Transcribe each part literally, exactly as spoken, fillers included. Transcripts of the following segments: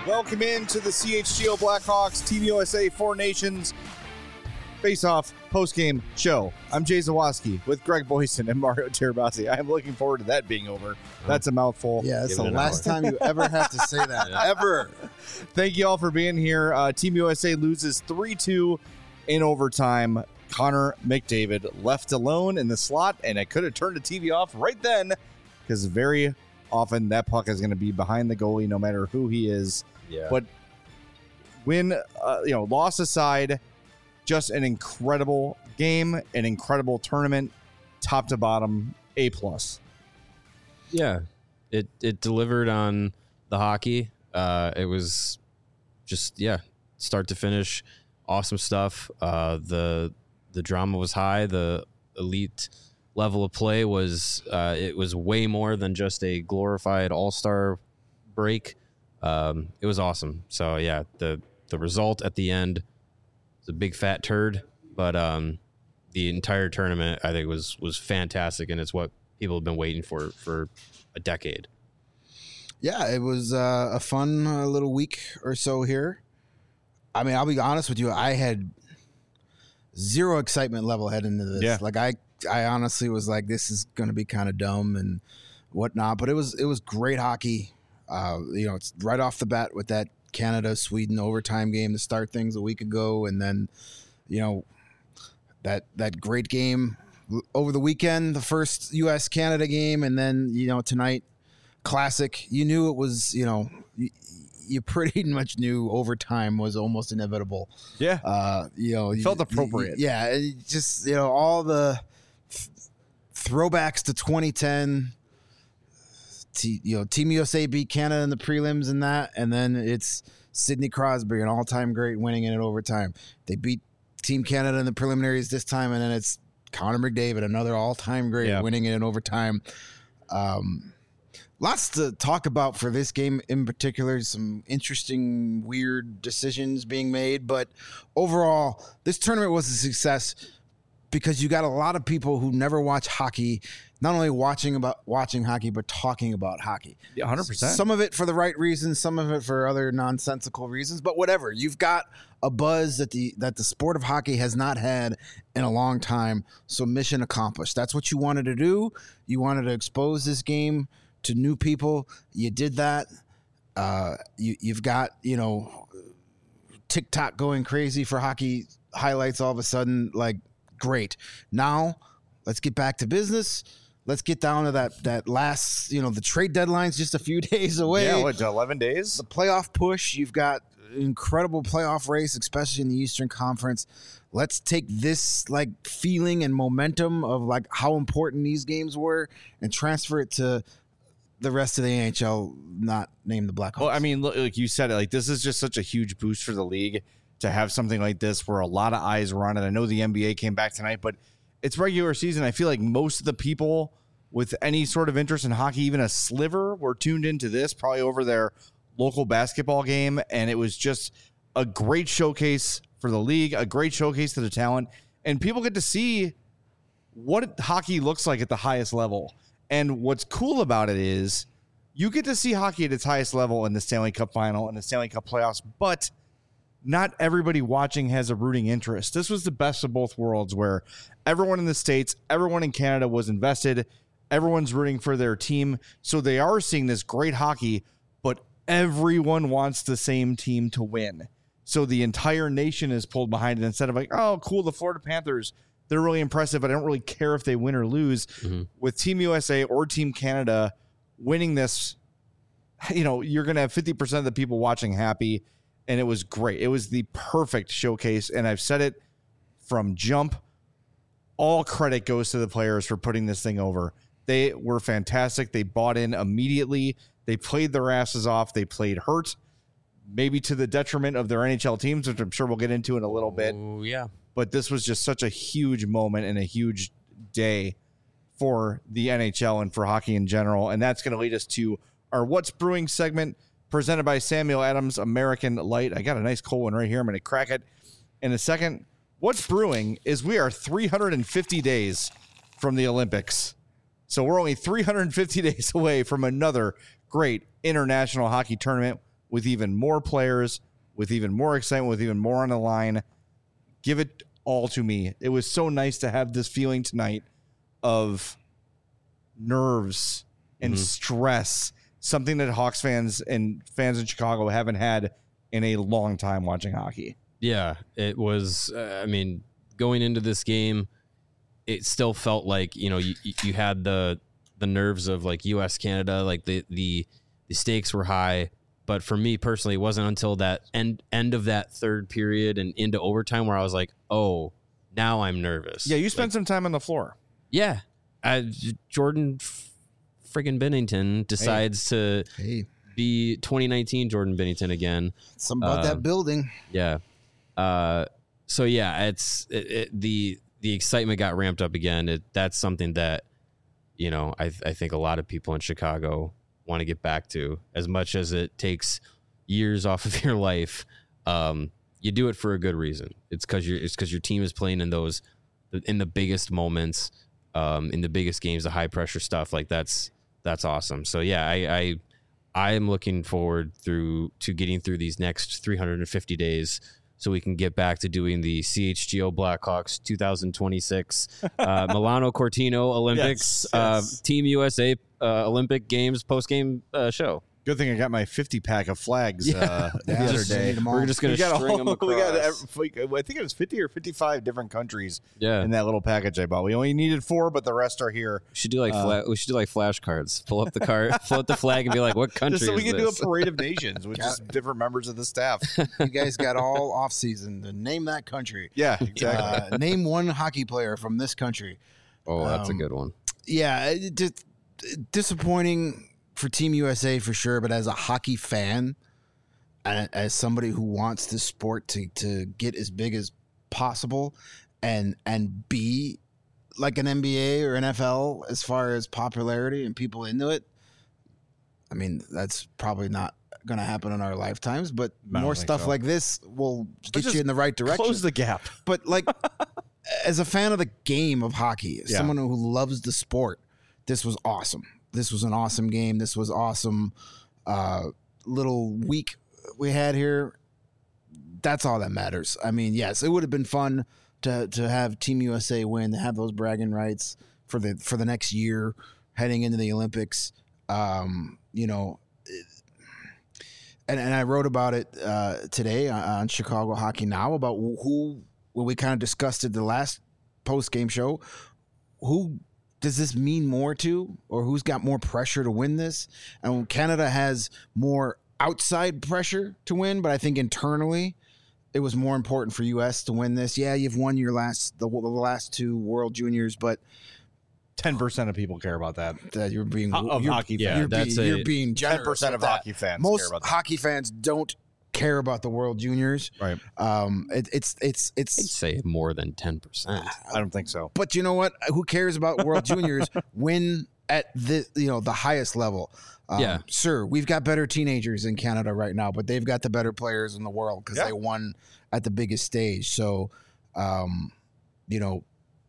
Welcome into the C H G O Blackhawks Team U S A Four Nations Face-Off post-game show. I'm Jay Zawaski with Greg Boyson and Mario Tirabassi. I'm looking forward to that being over. That's a mouthful. Yeah, that's Give the it an last hour. time you ever have to say that. Yeah. Ever. Thank you all for being here. Uh, Team U S A loses three two in overtime. Connor McDavid left alone in the slot, and I could have turned the T V off right then because very often that puck is going to be behind the goalie no matter who he is. Yeah. But win, uh, you know, loss aside, just an incredible game, an incredible tournament, top to bottom, A plus. Yeah, it it delivered on the hockey. Uh, it was just yeah, start to finish, awesome stuff. Uh, the the drama was high. The elite level of play was uh, it was way more than just a glorified all-star break. Um, it was awesome. So yeah, the the result at the end was a big fat turd, but um, the entire tournament I think was was fantastic, and it's what people have been waiting for for a decade. Yeah, it was uh, a fun uh, little week or so here. I mean, I'll be honest with you. I had zero excitement level heading into this. Yeah. Like I, I honestly was like, this is going to be kind of dumb and whatnot. But it was, it was great hockey. Uh, you know, it's right off the bat with that Canada Sweden overtime game to start things a week ago, and then, you know, that that great game over the weekend, the first U S Canada game, and then you know tonight, classic. You knew it was, you know, you, you pretty much knew overtime was almost inevitable. Yeah. Uh, you know, It felt appropriate. You, yeah, it just you know all the th- throwbacks to twenty ten. T, you know, Team U S A beat Canada in the prelims and that, and then it's Sidney Crosby, an all-time great, winning it in overtime. They beat Team Canada in the preliminaries this time, and then it's Connor McDavid, another all-time great, Yeah. winning it in overtime. Um, lots to talk about for this game in particular. Some interesting, weird decisions being made, but overall, this tournament was a success because you got a lot of people who never watch hockey, not only watching about watching hockey, but talking about hockey. Yeah, one hundred percent. Some of it for the right reasons, some of it for other nonsensical reasons, but whatever. You've got a buzz that the that the sport of hockey has not had in a long time. So mission accomplished. That's what you wanted to do. You wanted to expose this game to new people. You did that. Uh, you you've got, you know, TikTok going crazy for hockey highlights all of a sudden. Like, great. Now let's get back to business. Let's get down to that that last, you know, the trade deadline's just a few days away. Yeah, what, eleven days? The playoff push, you've got incredible playoff race, especially in the Eastern Conference. Let's take this like feeling and momentum of like how important these games were and transfer it to the rest of the N H L, not name the Blackhawks. Well, I mean, look, like you said, it, like this is just such a huge boost for the league to have something like this where a lot of eyes were on it. I know the N B A came back tonight, but it's regular season. I feel like most of the people with any sort of interest in hockey, even a sliver, were tuned into this probably over their local basketball game. And it was just a great showcase for the league, a great showcase to the talent. And people get to see what hockey looks like at the highest level. And what's cool about it is you get to see hockey at its highest level in the Stanley Cup final and the Stanley Cup playoffs, but not everybody watching has a rooting interest. This was the best of both worlds where everyone in the States, everyone in Canada was invested. Everyone's rooting for their team. So they are seeing this great hockey, but everyone wants the same team to win. So the entire nation is pulled behind it instead of like, oh, cool, the Florida Panthers, they're really impressive, but I don't really care if they win or lose. Mm-hmm. With Team U S A or Team Canada winning this, you know, you're going to have fifty percent of the people watching happy. And it was great. It was the perfect showcase. And I've said it from jump. All credit goes to the players for putting this thing over. They were fantastic. They bought in immediately. They played their asses off. They played hurt, maybe to the detriment of their N H L teams, which I'm sure we'll get into in a little bit. Oh, yeah. But this was just such a huge moment and a huge day for the N H L and for hockey in general. And that's going to lead us to our What's Brewing segment, presented by Samuel Adams American Light. I got a nice cold one right here. I'm going to crack it in a second. What's brewing is we are three hundred fifty days from the Olympics. So we're only three hundred fifty days away from another great international hockey tournament. with even more players, with even more excitement, with even more on the line. Give it all to me. It was so nice to have this feeling tonight of nerves and Mhm. stress, something that Hawks fans and fans in Chicago haven't had in a long time watching hockey. Yeah, it was. Uh, I mean, going into this game, it still felt like, you know, you you had the the nerves of like U S Canada, like the the the stakes were high. But for me personally, it wasn't until that end end of that third period and into overtime where I was like, oh, now I'm nervous. Yeah, you spent Like, some time on the floor. yeah, I, Jordan f- friggin' Bennington decides to Hey, be twenty nineteen Jordan Bennington again. something about Um, that building. Yeah. Uh, so yeah, it's it, it, the the excitement got ramped up again. It, that's something that, you know, I I think a lot of people in Chicago want to get back to. As much as it takes years off of your life, um, you do it for a good reason. It's because you're it's because your team is playing in those in the biggest moments, um, in the biggest games, the high pressure stuff. Like that's that's awesome. So yeah, I. I I am looking forward through to getting through these next three hundred fifty days so we can get back to doing the C H G O Blackhawks two thousand twenty-six uh, Milano Cortino Olympics, Yes, yes. Uh, Team U S A uh, Olympic Games post-game uh, show. Good thing I got my fifty pack of flags uh, the Yeah, other just day. need them all. We're just going We to got, string all, them across. we got every- I think it was fifty or fifty-five different countries yeah, in that little package I bought. We only needed four, but the rest are here. we should do like uh, fla- we should do like flashcards. Pull up the card, float the flag, and be like, "What country Just so we is can do a this?" parade of nations with just different members of the staff. You guys got all off season to name that country. Yeah, exactly. Uh, name one hockey player from this country. Oh, that's Um, a good one. Yeah, it just disappointing for Team U S A for sure. But as a hockey fan, and as somebody who wants this sport to to get as big as possible, and and be like an N B A or N F L as far as popularity and people into it, I mean that's probably not going to happen in our lifetimes. But I don't more think stuff so. like this will get just you in the right direction. Close the gap. But like, as a fan of the game of hockey, as Yeah. someone who loves the sport, this was awesome. This was an awesome game. This was awesome. Uh, little week we had here. That's all that matters. I mean, yes, it would have been fun to to have Team U S A win, to have those bragging rights for the for the next year heading into the Olympics. Um, you know. And, and I wrote about it uh, today on Chicago Hockey Now about who, when we kind of discussed it the last post game show, who does this mean more to, or who's got more pressure to win this? And Canada has more outside pressure to win, but I think internally it was more important for U S to win this. Yeah, you've won your last the, the last two World Juniors, but ten percent of people care about that. uh, you're being Ho- of you're, hockey yeah, fans. you're, that's being, a- you're being generous. ten percent with of that. hockey fans care Most about that. hockey fans don't care about the World Juniors. Right. Um, it, it's it's I'd it's. say more than ten percent. I don't think so. But you know what? Who cares about World Juniors? Win at the you know the highest level. Um, Yeah. sure. We've got better teenagers in Canada right now, but they've got the better players in the world because Yeah. they won at the biggest stage. So, um, you know,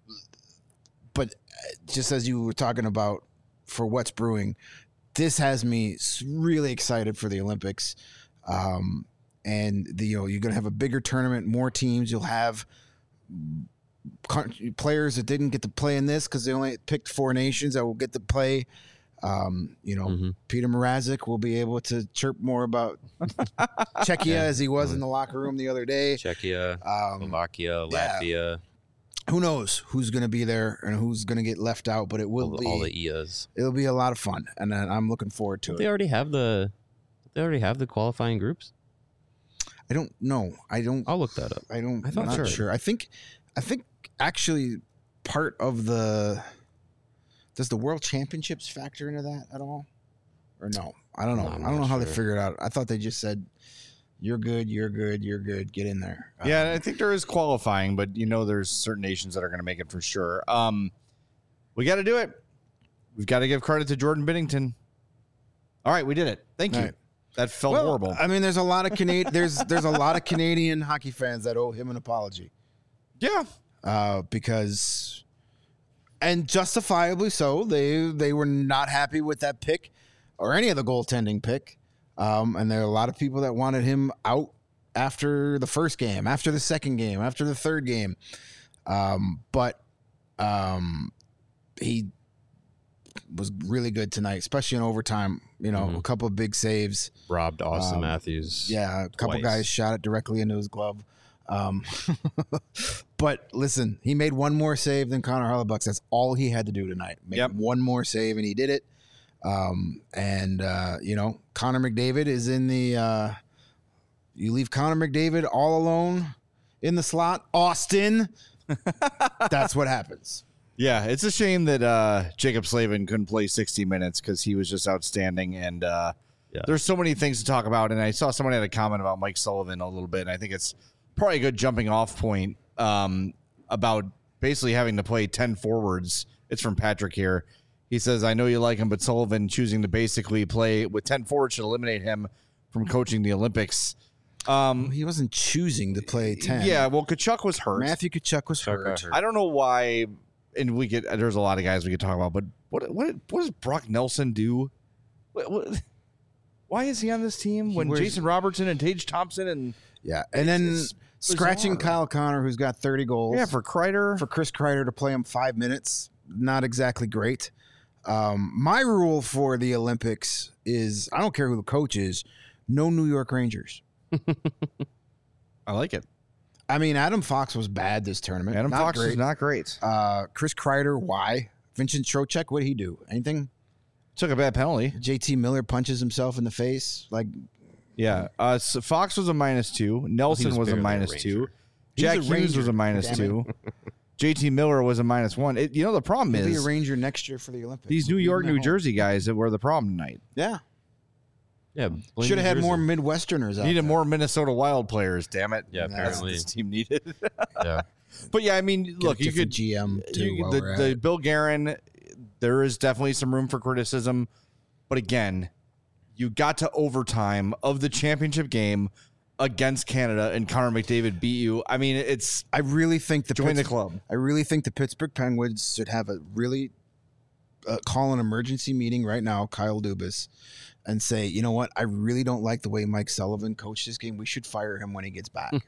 but just as you were talking about for what's brewing, this has me s- really excited for the Olympics. Um, and the, you know, you're going to have a bigger tournament, more teams. You'll have country- players that didn't get to play in this because they only picked four nations that will get to play. Um, you know, Mhm. Peter Mrazek will be able to chirp more about Czechia Yeah. as he was in the locker room the other day. Czechia, Um, Slovakia, yeah. Latvia, who knows who's going to be there and who's going to get left out, but it will all, be all the I A S. it'll be a lot of fun, and uh, I'm looking forward to They it. already have the. They already have the qualifying groups. I don't know. I don't. I'll look that up. I don't. I thought I'm not so. sure. I think. I think actually part of the. Does the World Championships factor into that at all, or no? I don't know. No, I'm I don't know not how they sure. figured it out. I thought they just said, "You're good. You're good. You're good. Get in there." Yeah, Um, I think there is qualifying, but you know, there's certain nations that are going to make it for sure. Um, we got to do it. We've got to give credit to Jordan Bennington. All right, we did it. Thank you. Right. That felt well, horrible. I mean, there's a lot of Canadian. there's there's a lot of Canadian hockey fans that owe him an apology. yeah, uh, because, and justifiably so, they they were not happy with that pick or any of the goaltending pick. Um, and there are a lot of people that wanted him out after the first game, after the second game, after the third game. Um, but um, he was really good tonight, especially in overtime. You know, Mhm. a couple of big saves. Robbed Austin Um, Matthews. Yeah, a couple twice. guys shot it directly into his glove. Um, but listen, he made one more save than Connor Hellebuyck. That's all he had to do tonight. Make Yep. one more save, and he did it. Um, and uh, you know, Connor McDavid is in the. Uh, you leave Connor McDavid all alone in the slot, Austin. That's what happens. Yeah, it's a shame that uh, Jacob Slavin couldn't play sixty minutes because he was just outstanding. And uh, Yeah. there's so many things to talk about. And I saw someone had a comment about Mike Sullivan a little bit. And I think it's probably a good jumping off point um, about basically having to play ten forwards. It's from Patrick here. He says, I know you like him, but Sullivan choosing to basically play with ten forwards should eliminate him from coaching the Olympics. Um, He wasn't choosing to play ten. yeah, well, Kachuk was hurt. Matthew Tkachuk was Tkachuk hurt. got hurt. I don't know why, and we could. There's a lot of guys we could talk about, but what what what does Brock Nelson do? What, what, why is he on this team He when wears- Jason Robertson and Tage Thompson and Yeah, and then It's scratching bizarre. Kyle Connor, who's got thirty goals. yeah for Kreider? for Chris Kreider to play him five minutes, not exactly great. Um, my rule for the Olympics is I don't care who the coach is, no New York Rangers. I like it. I mean, Adam Fox was bad this tournament. Adam not Fox great. is not great. Uh, Chris Kreider, why? Vincent Trocheck, what did he do? Anything? Took a bad penalty. J T Miller punches himself in the face. Like Yeah, uh, so Fox was a minus two. Nelson was was, a barely a minus Ranger. two. He's Jack a Hughes Ranger, was a minus damn two. J T Miller was a minus one. It, you know the problem he'll be a is Ranger next year for the Olympics. these New Leave York, him at New home. Jersey guys that were the problem tonight. Yeah, Yeah. blame should have New had more Jersey. Midwesterners out Needed there. more Minnesota Wild players. Damn it. Yeah, That's what apparently. this team needed. Yeah. But yeah, I mean, Get look, a you different could G M too. you, while the, we're at the it. Bill Guerin. There is definitely some room for criticism, but again, you got to overtime of the championship game against Canada, and Connor McDavid beat you. I mean, it's I really think the join the Pitts- club. I really think the Pittsburgh Penguins should have a really uh, call an emergency meeting right now, Kyle Dubas, and say, you know what? I really don't like the way Mike Sullivan coached this game. We should fire him when he gets back.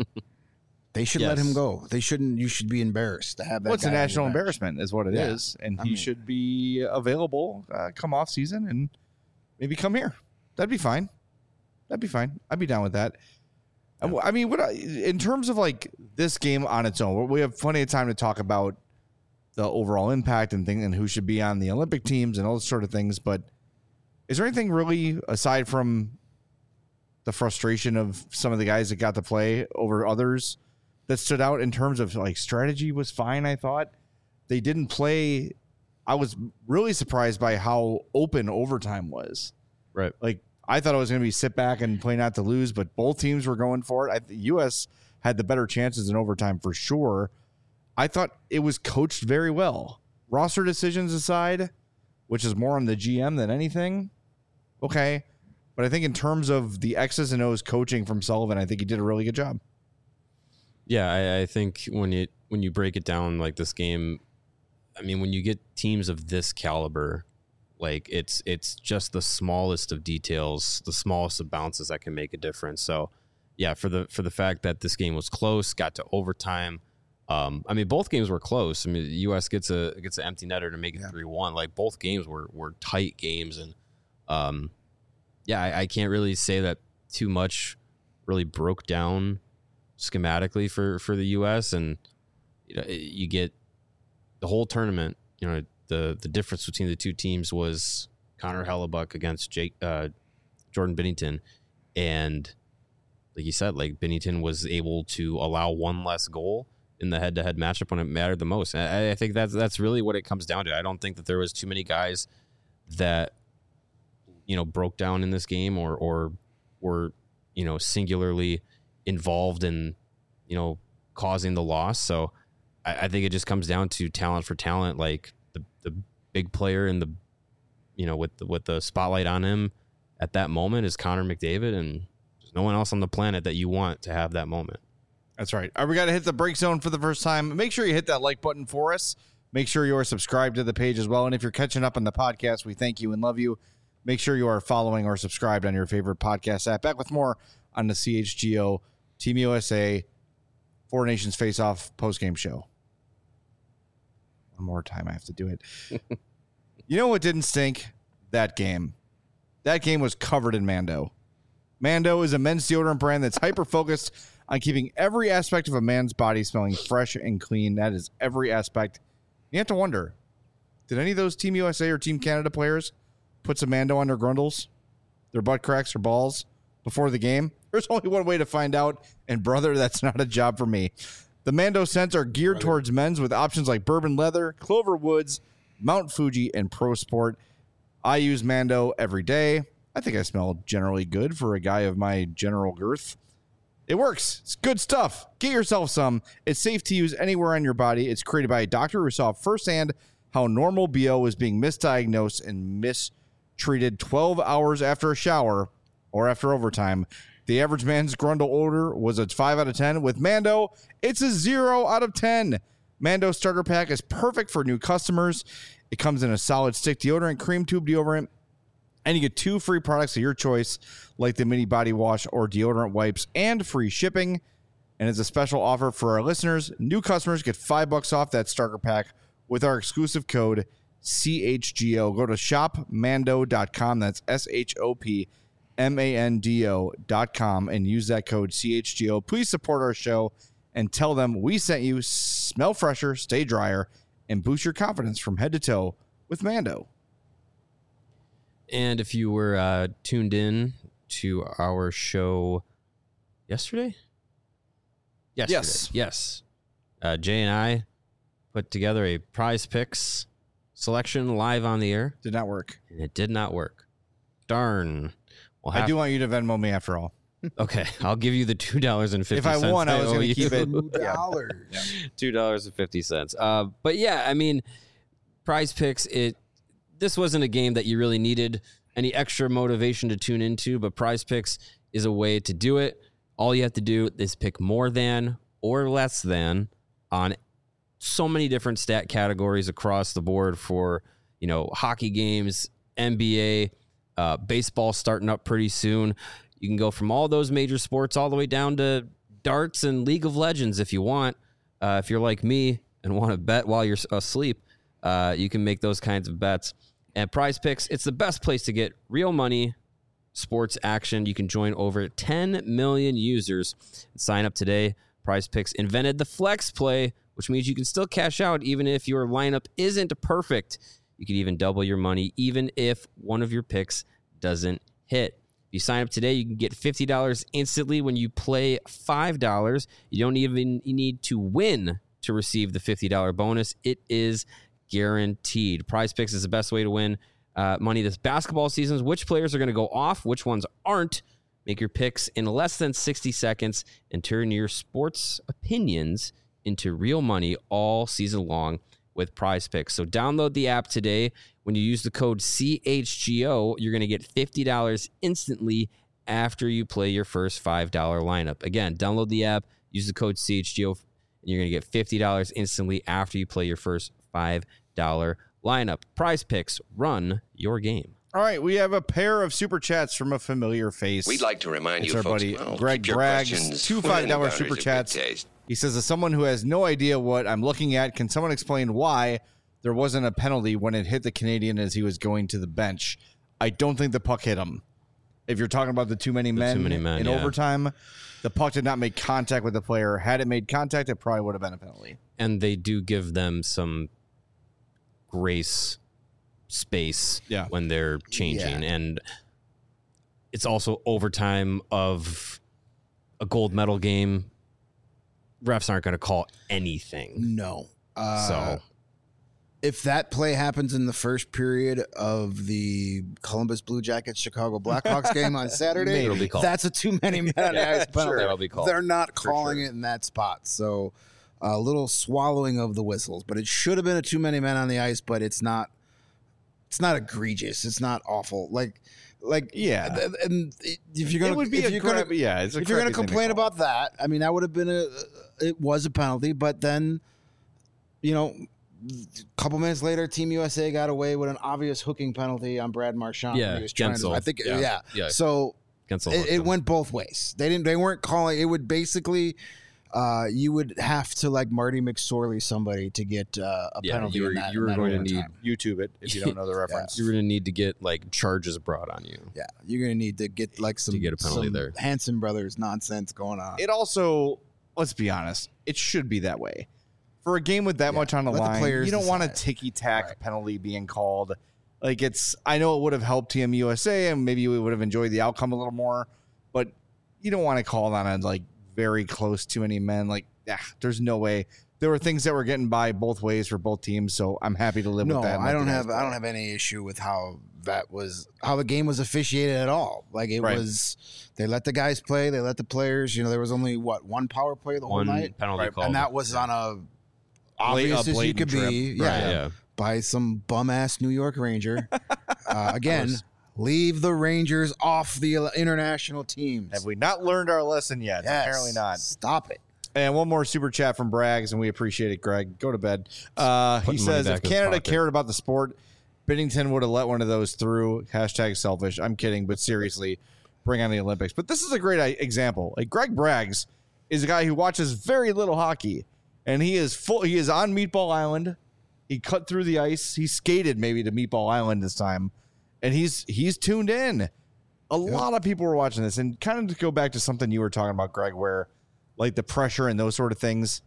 They should let Yes. him go. They shouldn't. You should be embarrassed to have that. What's guy a on your national bench. embarrassment is what it is, Yeah. and I he mean- should be available uh, come off season and maybe come here. That'd be fine. That'd be fine. I'd be down with that. And wh- I mean, what I, in terms of like this game on its own, we have plenty of time to talk about the overall impact and thing and who should be on the Olympic teams and all those sort of things. But is there anything really aside from the frustration of some of the guys that got to play over others that stood out in terms of like strategy was fine? I thought they didn't play. I was really surprised by how open overtime was. Right. Like I thought it was going to be sit back and play not to lose, but both teams were going for it. I, the U S had the better chances in overtime for sure. I thought it was coached very well. Roster decisions aside, which is more on the G M than anything. Okay. But I think in terms of the X's and O's coaching from Sullivan, I think he did a really good job. Yeah, I, I think when you when you break it down like this game, I mean, when you get teams of this caliber, like it's it's just the smallest of details, the smallest of bounces that can make a difference. So, yeah, for the for the fact that this game was close, got to overtime. Um, I mean, both games were close. I mean, the U S gets a gets an empty netter to make it three one. Like both games were were tight games, and um, yeah, I, I can't really say that too much really broke down schematically for, for the U S, and you know, you get the whole tournament. You know, the the difference between the two teams was Connor Hellebuyck against Jake uh, Jordan Binnington, and like you said, like Binnington was able to allow one less goal in the head to head matchup when it mattered the most. And I, I think that's that's really what it comes down to. I don't think that there was too many guys that you know broke down in this game or or were you know singularly involved in, you know, causing the loss. So I, I think it just comes down to talent for talent. Like the, the big player in the, you know, with the, with the spotlight on him at that moment is Connor McDavid, and there's no one else on the planet that you want to have that moment. That's right. All right, we got to hit the break zone for the first time. Make sure you hit that like button for us. Make sure you're subscribed to the page as well. And if you're catching up on the podcast, we thank you and love you. Make sure you are following or subscribed on your favorite podcast app. Back with more on the C H G O Team U S A Four Nations Face-Off postgame show. One more time, I have to do it. You know what didn't stink? That game. That game was covered in Mando. Mando is a men's deodorant brand that's hyper-focused on keeping every aspect of a man's body smelling fresh and clean. That is every aspect. You have to wonder, did any of those Team U S A or Team Canada players put some Mando on their grundles, their butt cracks, or balls before the game? There's only one way to find out, and brother, that's not a job for me. The Mando scents are geared brother. towards men's with options like bourbon leather, Clover Woods, Mount Fuji, and Pro Sport. I use Mando every day. I think I smell generally good for a guy of my general girth. It works. It's good stuff. Get yourself some. It's safe to use anywhere on your body. It's created by a doctor who saw firsthand how normal B O was being misdiagnosed and mistreated twelve hours after a shower or after overtime. The average man's grundle odor was a five out of ten. With Mando, it's a zero out of ten. Mando starter pack is perfect for new customers. It comes in a solid stick deodorant, cream tube deodorant, and you get two free products of your choice, like the mini body wash or deodorant wipes, and free shipping. And as a special offer for our listeners, new customers get five bucks off that starter pack with our exclusive code C H G O. Go to shop mando dot com. That's S H O P M A N D O dot com and use that code C H G O. Please support our show and tell them we sent you. Smell fresher, stay drier, and boost your confidence from head to toe with Mando. And if you were uh, tuned in to our show yesterday? Yesterday. Yes. Yes. Uh, Jay and I put together a Prize Picks selection live on the air. Did not work. And it did not work. Darn. Well, I do want you to Venmo me after all. Okay, I'll give you the two dollars and fifty cents. If I won, I was going to keep it. Two dollars. Two dollars and fifty cents. Uh, but yeah, I mean, Prize Picks. It. This wasn't a game that you really needed any extra motivation to tune into, but Prize Picks is a way to do it. All you have to do is pick more than or less than on so many different stat categories across the board for, you know, hockey games, N B A, uh, baseball starting up pretty soon. You can go from all those major sports all the way down to darts and League of Legends if you want. Uh, if you're like me and want to bet while you're asleep, uh, you can make those kinds of bets. And Prize Picks, it's the best place to get real money, sports action. You can join over ten million users. Sign up today. Prize Picks invented the flex play, which means you can still cash out even if your lineup isn't perfect. You can even double your money even if one of your picks doesn't hit. If you sign up today, you can get fifty dollars instantly when you play five dollars. You don't even need to win to receive the fifty dollars bonus. It is guaranteed. Prize Picks is the best way to win uh, money this basketball season. Which players are going to go off? Which ones aren't? Make your picks in less than sixty seconds and turn your sports opinions into real money all season long with Prize Picks. So download the app today. When you use the code C H G O, you're going to get fifty dollars instantly after you play your first five dollars lineup. Again, download the app, use the code C H G O, and you're going to get fifty dollars instantly after you play your first five dollars lineup. Prize Picks, run your game. All right, we have a pair of super chats from a familiar face. We'd like to remind it's you, our folks, buddy well, Greg Braggs, two five dollars super chats. He says, as someone who has no idea what I'm looking at, can someone explain why there wasn't a penalty when it hit the Canadian as he was going to the bench? I don't think the puck hit him. If you're talking about the too many men, too many men in yeah. overtime, the puck did not make contact with the player. Had it made contact, it probably would have been a penalty. And they do give them some grace space yeah. when they're changing. Yeah. And it's also overtime of a gold medal game. Refs aren't going to call anything. No. Uh, so if that play happens in the first period of the Columbus Blue Jackets Chicago Blackhawks game on Saturday, it'll be called. That's a too many men on the ice penalty. Sure, it'll be called. They're not calling sure. it in that spot. So a little swallowing of the whistles, but it should have been a too many men on the ice, but it's not it's not egregious. It's not awful. Like like yeah. And if you're going it would be if a you're crap, gonna, yeah, it's a if you're going to complain to about that, I mean that would have been a it was a penalty, but then you know couple minutes later, Team U S A got away with an obvious hooking penalty on Brad Marchand. Yeah, when he was trying to, I think, yeah, yeah. yeah. yeah. So it, it went both ways. They didn't. They weren't calling. It would basically, uh, you would have to like Marty McSorley somebody to get uh, a yeah, penalty. You were, in that, you were in that going to need time. YouTube it if you don't know the reference. You were going to need to get like charges brought on you. Yeah, you're gonna need to get like some To get a penalty some there. Hanson Brothers nonsense going on. It also, let's be honest, it should be that way. For a game with that Yeah, much on the let the line, players you don't want a decide. ticky-tack Right. penalty being called. Like, it's, I know it would have helped Team U S A, and maybe we would have enjoyed the outcome a little more, but you don't want to call on it, like, very close to any men. Like, yeah, there's no way. There were things that were getting by both ways for both teams, so I'm happy to live No, with that. and I let don't the guys have play. I don't have any issue with how that was how the game was officiated at all. Like it Right. was, they let the guys play, they let the players. You know, there was only what one power play the One whole night, penalty Right. call. and that was on a Bla- a obvious as you blatant could trip. be, Right, yeah, yeah. by some bum ass New York Ranger. uh, again, course. leave the Rangers off the international teams. Have we not learned our lesson yet? Yes. Apparently not. Stop it. And one more super chat from Braggs, and we appreciate it, Greg. Go to bed. Uh, he Putting money says, back if in his Canada pocket. cared about the sport, Binnington would have let one of those through. Hashtag selfish. I'm kidding, but seriously, bring on the Olympics. But this is a great i- example. Like Greg Braggs is a guy who watches very little hockey, and he is full. He is on Meatball Island. He cut through the ice. He skated maybe to Meatball Island this time, and he's he's tuned in. A lot of people were watching this, and kind of to go back to something you were talking about, Greg, where like the pressure and those sort of things.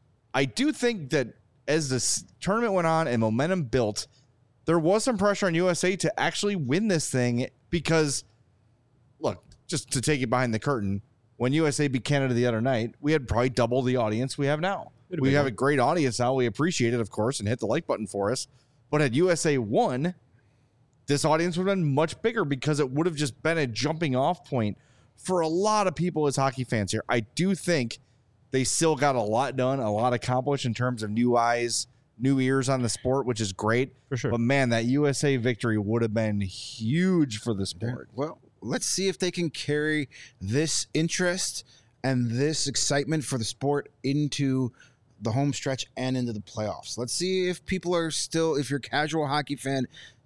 I do think that as this tournament went on and momentum built, there was some pressure on U S A to actually win this thing because, look, just to take it behind the curtain, when U S A beat Canada the other night, we had probably double the audience we have now. Could've We been have more. a great audience now. We appreciate it, of course, and hit the like button for us. But had U S A won, this audience would have been much bigger because it would have just been a jumping off point for a lot of people as hockey fans here. I do think they still got a lot done, a lot accomplished in terms of new eyes, new ears on the sport, which is great. For sure. But man, that U S A victory would have been huge for the sport. Well, let's see if they can carry this interest and this excitement for the sport into the home stretch and into the playoffs. Let's see if people are still, if your casual hockey fan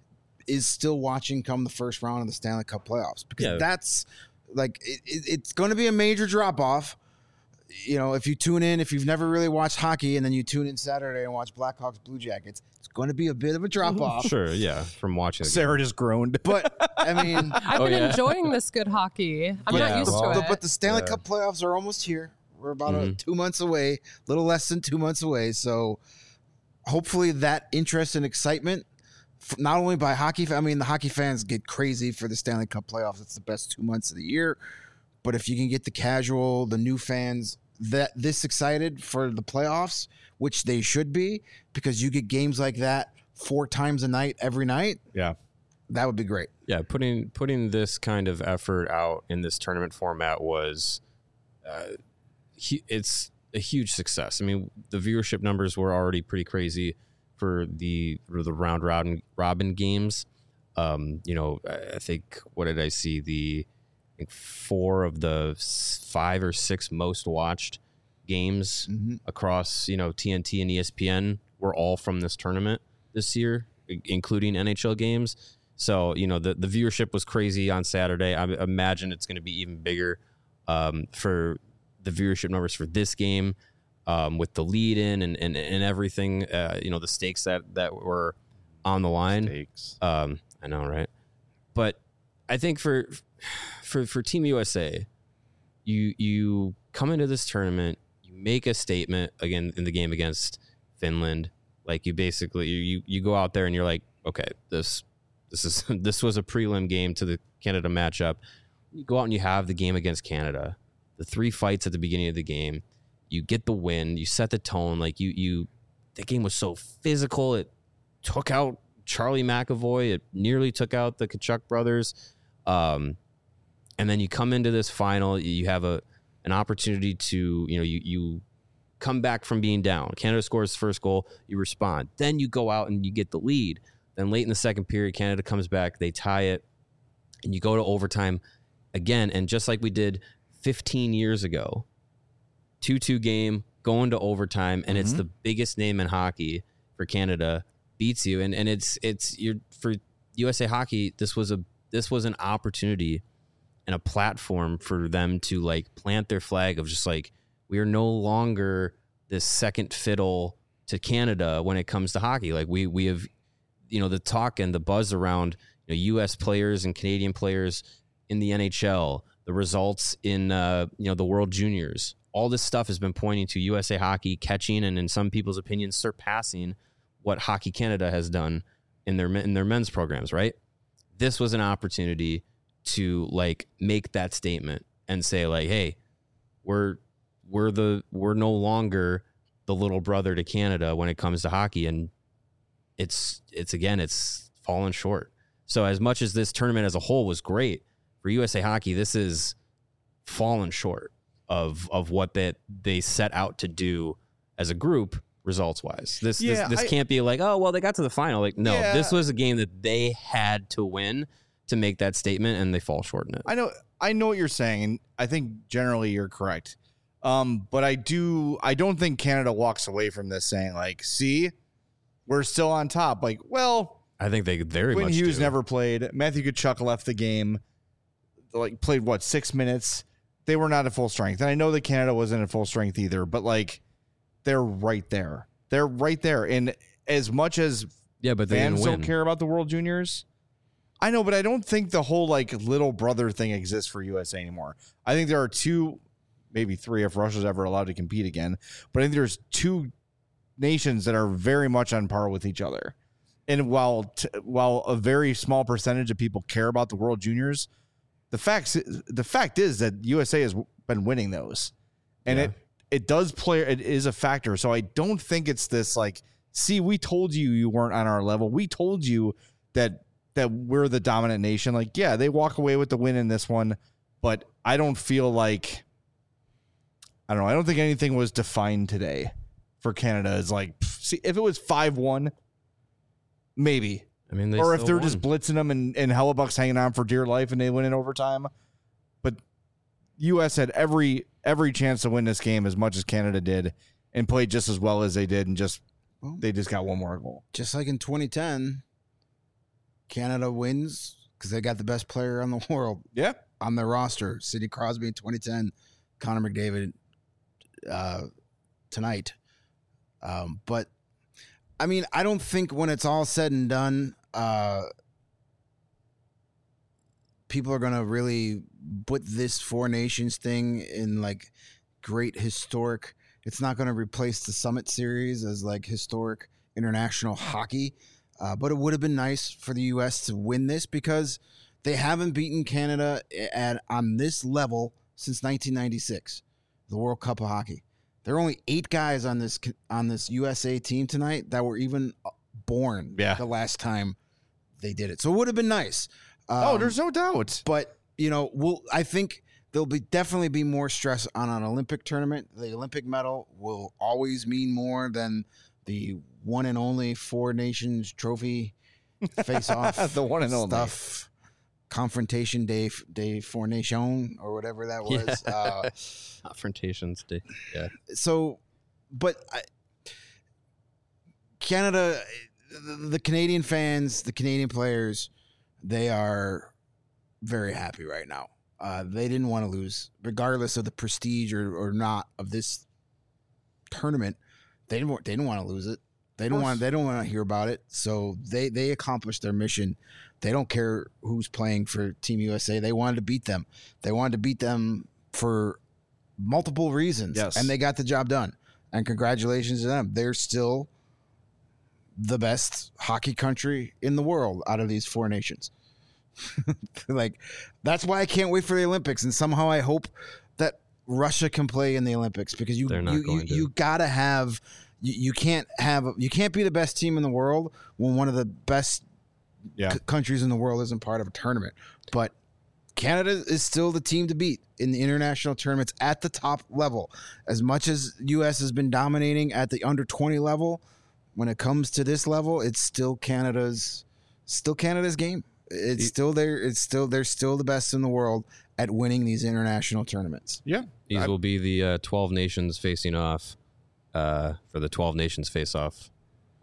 is still watching come the first round of the Stanley Cup playoffs, because Yeah. that's like, it, it, it's going to be a major drop off. You know, if you tune in, if you've never really watched hockey and then you tune in Saturday and watch Blackhawks Blue Jackets, it's going to be a bit of a drop off. Sure, yeah. From watching the game. Sarah just groaned. But I mean, I've Oh, been yeah. enjoying this good hockey. I'm Yeah, not used well, to the, it. but the Stanley Yeah. Cup playoffs are almost here. We're about uh Mhm. two months away, a little less than two months away. So hopefully that interest and excitement, f- not only by hockey, fa- I mean, the hockey fans get crazy for the Stanley Cup playoffs. It's the best two months of the year. But if you can get the casual, the new fans that this excited for the playoffs, which they should be, because you get games like that four times a night every night, Yeah. that would be great. Yeah, putting putting this kind of effort out in this tournament format was, uh, hu- it's a huge success. I mean, the viewership numbers were already pretty crazy for the for the round robin robin games. Um, you know, I I think what did I see? The I think four of the s- five or six most watched games Mhm. across, you know, T N T and E S P N were all from this tournament this year, i- including N H L games. So, you know, the, the viewership was crazy on Saturday. I imagine it's going to be even bigger um, for the viewership numbers for this game um, with the lead in and, and, and everything, uh, you know, the stakes that, that were on the line. Stakes. Um, I know, right? But I think for for for Team U S A, you you come into this tournament, you make a statement again in the game against Finland. Like you basically you you go out there and you're like, okay, this this is this was a prelim game to the Canada matchup. You go out and you have the game against Canada, the three fights at the beginning of the game. You get the win. You set the tone. Like you you, that game was so physical. It took out Charlie McAvoy. It nearly took out the Kachuk brothers. Um, and then you come into this final. You have a an opportunity to you know you you come back from being down. Canada scores first goal. You respond. Then you go out and you get the lead. Then late in the second period, Canada comes back. They tie it, and you go to overtime again. And just like we did fifteen years ago, two two game, going to overtime, and it's Mhm. the biggest name in hockey. for Canada beats you, and and it's it's you're for U S A Hockey. This was a this was an opportunity and a platform for them to like plant their flag of just like, we are no longer this second fiddle to Canada when it comes to hockey. Like we we have, you know, the talk and the buzz around, you know, U S players and Canadian players in the N H L, the results in uh, you know, the World Juniors. All this stuff has been pointing to U S A Hockey catching and, in some people's opinions, surpassing what Hockey Canada has done in their in their men's programs. Right. This was an opportunity to like make that statement and say like, hey, we're we're the we're no longer the little brother to Canada when it comes to hockey, and it's it's again it's fallen short. So as much as this tournament as a whole was great for U S A Hockey, this is fallen short of of what that they set out to do as a group results wise. This Yeah, this, this I- can't be like, oh well, they got to the final. Like no, Yeah. this was a game that they had to win to make that statement, and they fall short in it. I know I know what you're saying, and I think generally you're correct. Um, but I do I don't think Canada walks away from this saying like, see, we're still on top. Like, well, I think they very Quinn much Hughes do. never played. Matthew Tkachuk left the game. Like played what, six minutes? They were not at full strength. And I know that Canada wasn't at full strength either, but like they're right there. They're right there. And as much as Yeah, but they fans didn't win. don't care about the World Juniors, I know, but I don't think the whole like little brother thing exists for U S A anymore. I think there are two, maybe three if Russia's ever allowed to compete again. But I think there's two nations that are very much on par with each other. And while t- while a very small percentage of people care about the World Juniors, the facts the fact is that U S A has been winning those, and Yeah. it it does play. It is a factor. So I don't think it's this like, see, we told you you weren't on our level. We told you that that we're the dominant nation. Like, yeah, they walk away with the win in this one, but I don't feel like, I don't know. I don't think anything was defined today for Canada as like, pff, see, if it was five one, maybe. I mean, they Or if still they're won. just blitzing them and, and Hellebuck's hanging on for dear life and they win in overtime. But U S had every every chance to win this game as much as Canada did and played just as well as they did, and just Well, they just got one more goal. just like in twenty ten, Canada wins because they got the best player on the world Yeah. on their roster. Sidney Crosby in twenty ten, Connor McDavid uh, tonight. Um, but I mean, I don't think when it's all said and done, uh, people are going to really put this Four Nations thing in like great historic. It's not going to replace the Summit Series as like historic international hockey. Uh, but it would have been nice for the U S to win this because they haven't beaten Canada at on this level since nineteen ninety-six, the World Cup of Hockey. There are only eight guys on this on this U S A team tonight that were even born Yeah. the last time they did it. So it would have been nice. Um, Oh, there's no doubt. but you know, we'll. I think there'll be definitely be more stress on an Olympic tournament. The Olympic medal will always mean more than the one and only Four Nations trophy face off. The one and only. stuff. Confrontation Day, Day Four Nation, or whatever that was. Yeah. Uh, Confrontations day. Yeah. so, but I, Canada, the, the Canadian fans, the Canadian players, they are very happy right now. Uh, they didn't want to lose, regardless of the prestige or, or not of this tournament. They didn't. want- They didn't want to lose it. They don't course. want. They don't want to hear about it. So they they accomplished their mission. They don't care who's playing for Team U S A. They wanted to beat them. They wanted to beat them for multiple reasons. Yes. And they got the job done. And congratulations to them. They're still the best hockey country in the world out of these four nations. Like, that's why I can't wait for the Olympics. And somehow I hope that Russia can play in the Olympics, because you They're not you, you, going to. you gotta have you, you can't have you can't be the best team in the world when one of the best Yeah. c- countries in the world isn't part of a tournament. But Canada is still the team to beat in the international tournaments at the top level. As much as U S has been dominating at the under twenty level, when it comes to this level, it's still Canada's still Canada's game. It's still there. It's still they're still the best in the world at winning these international tournaments. Yeah. These I- will be the uh, twelve nations facing off uh, for the twelve nations face off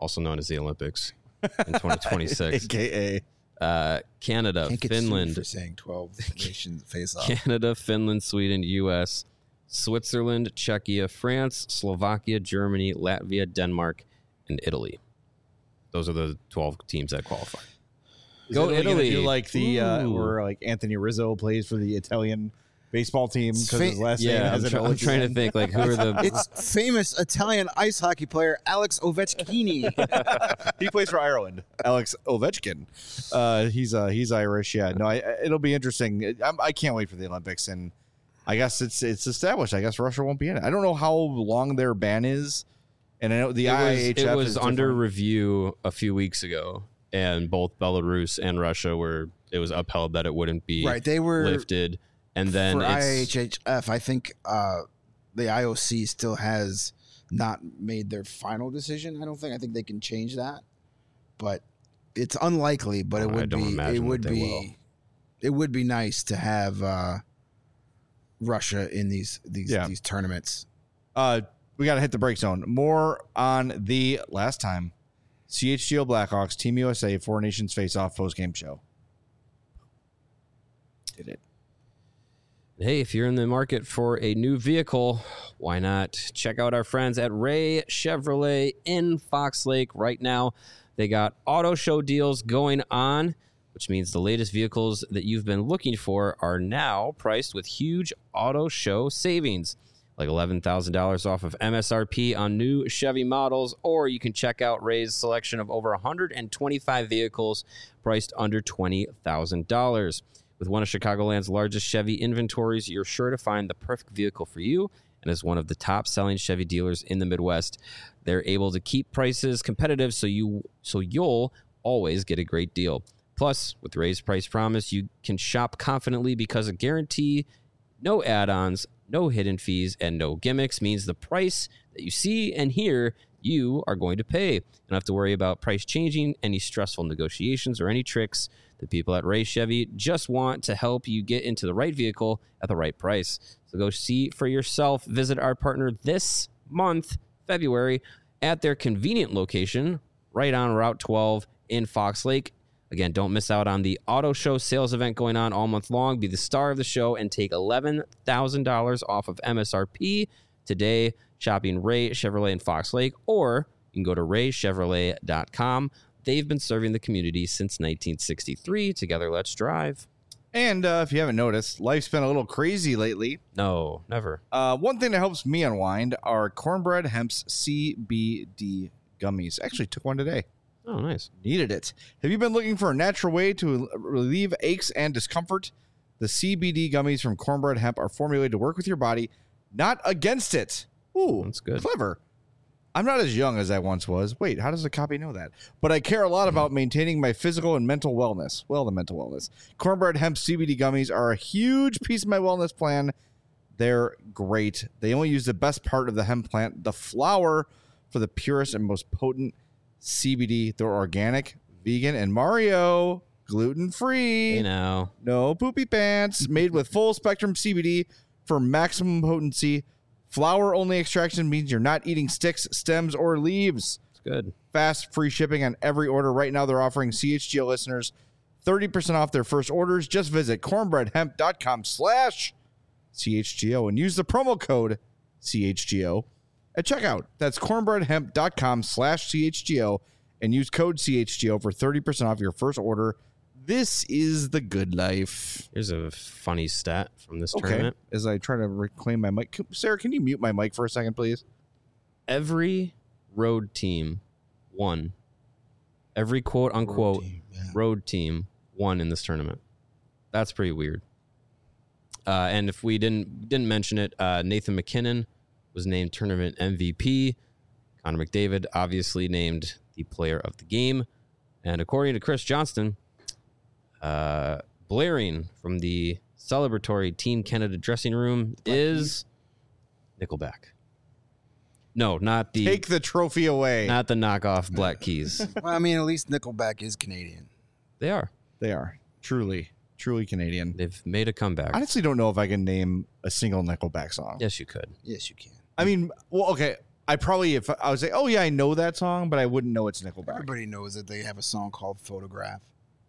also known as the Olympics in twenty twenty-six. A K A Uh, Canada, Can't get sued Finland, for saying twelve nations face off. Canada, Finland, Sweden, U S, Switzerland, Czechia, France, Slovakia, Germany, Latvia, Denmark, and Italy. Those are the twelve teams that qualify. Is Go Italy gonna Italy. do like the uh, Ooh. where like Anthony Rizzo plays for the Italian baseball team because his Fa- last name Yeah, has I'm, an try- O I'm at the trying to end. think like who are the It's famous Italian ice hockey player Alex Ovechkini. He plays for Ireland. Alex Ovechkin. Uh, he's uh, he's Irish. Yeah. No, I, it'll be interesting. I'm, I can't wait for the Olympics, and I guess it's it's established. I guess Russia won't be in it. I don't know how long their ban is, and I know the it I was, H F it was is under different. review a few weeks ago, and both Belarus and Russia were it was upheld that it wouldn't be Right, they were lifted, and then for it's, I H F. I think uh, the I O C still has not made their final decision. I don't think. I think they can change that, but it's unlikely. But it Oh, I would don't be. imagine It that would they be. will. It would be nice to have uh, Russia in these these Yeah. these tournaments. Uh, we got to hit the break zone. More on the last time C H G O Blackhawks Team U S A Four Nations Face Off post game show. Did it? Hey, if you're in the market for a new vehicle, why not check out our friends at Ray Chevrolet in Fox Lake right now? They got auto show deals going on, which means the latest vehicles that you've been looking for are now priced with huge auto show savings, like eleven thousand dollars off of M S R P on new Chevy models, or you can check out Ray's selection of over one hundred twenty-five vehicles priced under twenty thousand dollars. With one of Chicagoland's largest Chevy inventories, you're sure to find the perfect vehicle for you. And as one of the top-selling Chevy dealers in the Midwest, they're able to keep prices competitive so you so you'll always get a great deal. Plus, with Ray's Price Promise, you can shop confidently because a guarantee, no add-ons, no hidden fees, and no gimmicks means the price that you see and hear you are going to pay. You don't have to worry about price changing, any stressful negotiations, or any tricks. The people at Ray Chevy just want to help you get into the right vehicle at the right price. So go see for yourself. Visit our partner this month, February, at their convenient location right on Route twelve in Fox Lake. Again, don't miss out on the auto show sales event going on all month long. Be the star of the show and take eleven thousand dollars off of M S R P today shopping Ray Chevrolet in Fox Lake, or you can go to ray chevrolet dot com. They've been serving the community since nineteen sixty-three. Together, let's drive. And uh, if you haven't noticed, life's been a little crazy lately. No, never. Uh, one thing that helps me unwind are Cornbread Hemp's C B D gummies. Actually, took one today. Oh, nice. Needed it. Have you been looking for a natural way to relieve aches and discomfort? The C B D gummies from Cornbread Hemp are formulated to work with your body, not against it. Ooh, That's good. Clever. I'm not as young as I once was. Wait, how does the copy know that? But I care a lot about maintaining my physical and mental wellness. Well, the mental wellness. Cornbread Hemp C B D gummies are a huge piece of my wellness plan. They're great. They only use the best part of the hemp plant, the flower, for the purest and most potent C B D. They're organic, vegan, and Mario, gluten-free. Hey, now. No poopy pants. Made with full spectrum C B D for maximum potency. Flower only extraction means you're not eating sticks, stems, or leaves. It's good. Fast, free shipping on every order. Right now, they're offering C H G O listeners thirty percent off their first orders. Just visit cornbreadhemp.com slash CHGO and use the promo code C H G O at checkout. That's cornbreadhemp.com slash CHGO and use code C H G O for thirty percent off your first order. This is the good life. Here's a funny stat from this Okay. tournament. As I try to reclaim my mic. Sarah, can you mute my mic for a second, please? Every road team won. Every quote unquote team, yeah. road team won in this tournament. That's pretty weird. Uh, and if we didn't didn't mention it, uh, Nathan McKinnon was named tournament M V P. Connor McDavid obviously named the player of the game. And according to Chris Johnston, uh, blaring from the celebratory Team Canada dressing room is Nickelback. No, not the Take the trophy away. not the knockoff Black Keys. Well, I mean, at least Nickelback is Canadian. They are. They are truly, truly Canadian. They've made a comeback. I honestly don't know if I can name a single Nickelback song. Yes, you could. Yes, you can. I mean, well, okay. I probably if I was like, oh yeah, I know that song, but I wouldn't know it's Nickelback. Everybody knows that they have a song called Photograph.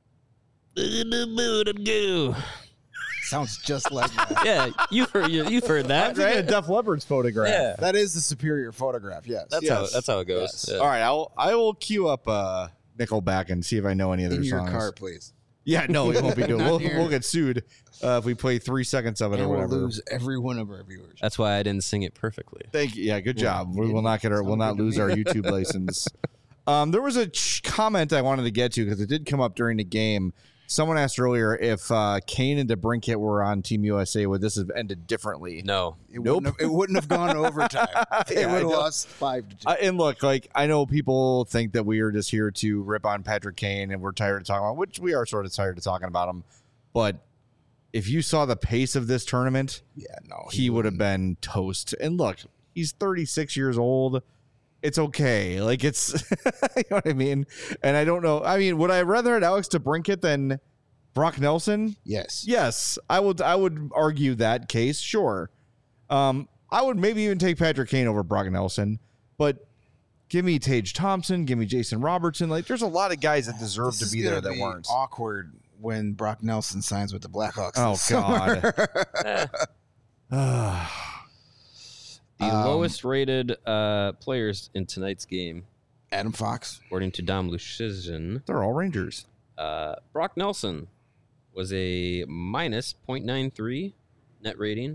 Sounds just like that. Yeah, you've heard you, you've heard that, Right? right? Def Leppard's Photograph. Yeah, That is the superior photograph, yes. that's Yes. how that's how it goes. Yes. Yeah. All right, I'll I will queue up uh, Nickelback and see if I know any of their In your songs. car, please. Yeah, no, we won't be doing. Not We'll, here. we'll get sued uh, if we play three seconds of it And or we'll whatever. lose every one of our viewers. That's why I didn't sing it perfectly. Thank you. Yeah, good Yeah, job. We you will not get our. sound We'll not good to lose me. our YouTube license. Um, there was a ch- comment I wanted to get to because it did come up during the game. Someone asked earlier if uh, Kane and DeBrincat were on Team U S A, would this have ended differently? No, It, Nope. wouldn't have, it wouldn't have gone to overtime. They Yeah, I would have know. lost five to two. Uh, and look, like I know people think that we are just here to rip on Patrick Kane, and we're tired of talking about, which we are sort of tired of talking about him. But if you saw the pace of this tournament, yeah, no. he would have been toast. And look, he's thirty-six years old. It's okay. Like it's, you know what I mean? And I don't know. I mean, would I rather have Alex DeBrincat than Brock Nelson? Yes. Yes, I would. I would argue that case. Sure. Um, I would maybe even take Patrick Kane over Brock Nelson, but give me Tage Thompson, give me Jason Robertson. Like, there's a lot of guys that deserve This to is be there gonna that be weren't. awkward when Brock Nelson signs with the Blackhawks. Oh, this summer. the Um, lowest rated uh, players in tonight's game, Adam Fox. according to Dom Luszczyszyn, They're all Rangers. uh, Brock Nelson was a minus zero point nine three net rating.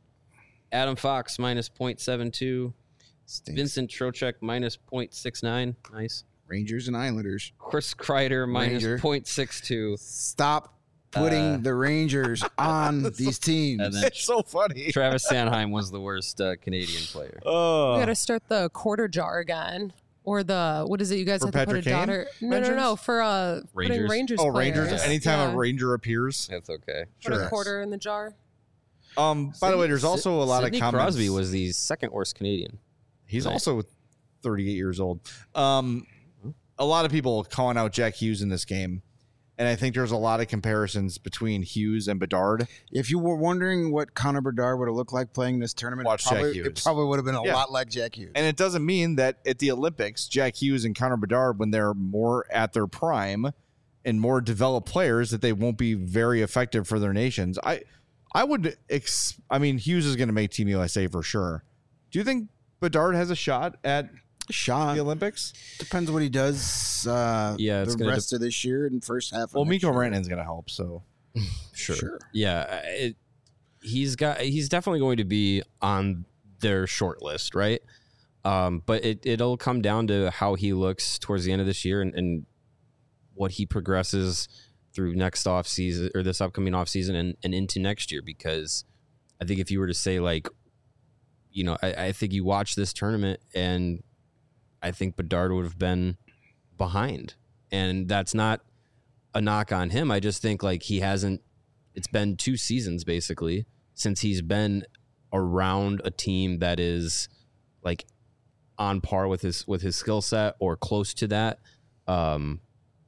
Adam Fox minus zero point seven two. Stinks. Vincent Trocheck minus zero point six nine. Nice. Rangers and Islanders. Chris Kreider minus Ranger. zero point six two. Stop putting Uh, the Rangers on these teams. And then It's so funny. Travis Sanheim was the worst uh, Canadian player. Oh, We got to start the quarter jar again. Or the, what is it? You guys For have to put a Patrick Kane daughter. No, no, no. mentions? For uh, putting Rangers. Rangers. oh, players. Rangers. Anytime Yeah. a Ranger appears. That's okay. Put Sure. a quarter in the jar. Um. By the way, there's also a lot Sidney of comments. Crosby was the second worst Canadian. He's Nice. also thirty-eight years old. Um, a lot of people calling out Jack Hughes in this game, and I think there's a lot of comparisons between Hughes and Bedard. If you were wondering what Connor Bedard would have looked like playing this tournament, Watch it probably, Jack Hughes. it probably would have been a Yeah. lot like Jack Hughes. And it doesn't mean that at the Olympics, Jack Hughes and Connor Bedard, when they're more at their prime and more developed players, that they won't be very effective for their nations. I, I would. Ex- I mean, Hughes is going to make Team U S A for sure. Do you think Bedard has a shot at Shot the Olympics? depends what he does. Uh, Yeah, it's the gonna rest of this year and first half. Of Well, next Mikko year. Rantanen's going to help. So Sure. Sure. Yeah. uh, It, he's got. He's definitely going to be on their short list, right? Um, but it it'll come down to how he looks towards the end of this year and, and what he progresses through next off season or this upcoming off season and, and into next year. Because I think if you were to say like, you know, I, I think you watch this tournament and I think Bedard would have been behind, and that's not a knock on him. I just think like he hasn't. It's been two seasons basically since he's been around a team that is like on par with his with his skill set or close to that. Um,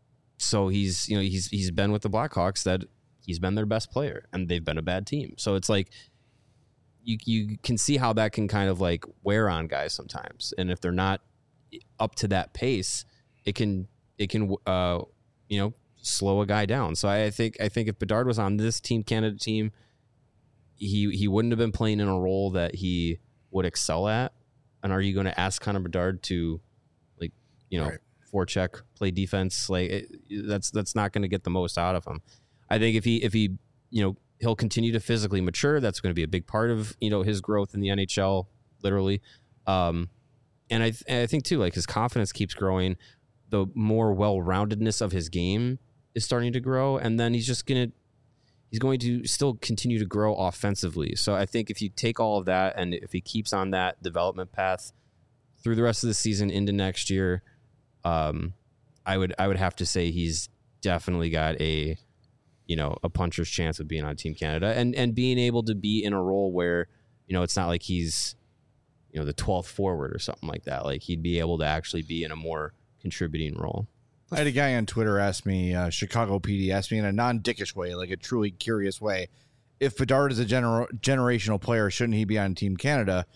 so he's you know he's he's been with the Blackhawks that he's been their best player and they've been a bad team. So it's like you you can see how that can kind of like wear on guys sometimes, and if they're not up to that pace, it can it can uh you know slow a guy down. So I think I think if Bedard was on this Team Canada team, he he wouldn't have been playing in a role that he would excel at. And are you going to ask Connor Bedard to like you know Right. forecheck, play defense? Like it, that's that's not going to get the most out of him. I think if he if he you know he'll continue to physically mature, that's going to be a big part of you know his growth in the N H L, literally. Um, and I th- and I think too like his confidence keeps growing. The more well-roundedness of his game is starting to grow, and then he's just gonna he's going to still continue to grow offensively. So I think if you take all of that and if he keeps on that development path through the rest of the season into next year, um, I would I would have to say he's definitely got a you know a puncher's chance of being on Team Canada and and being able to be in a role where you know it's not like he's you know the twelfth forward or something like that. Like he'd be able to actually be in a more contributing role. I had a guy on Twitter ask me, uh, Chicago P D asked me in a non-dickish way, like a truly curious way, if Bedard is a gener- generational player, shouldn't he be on Team Canada?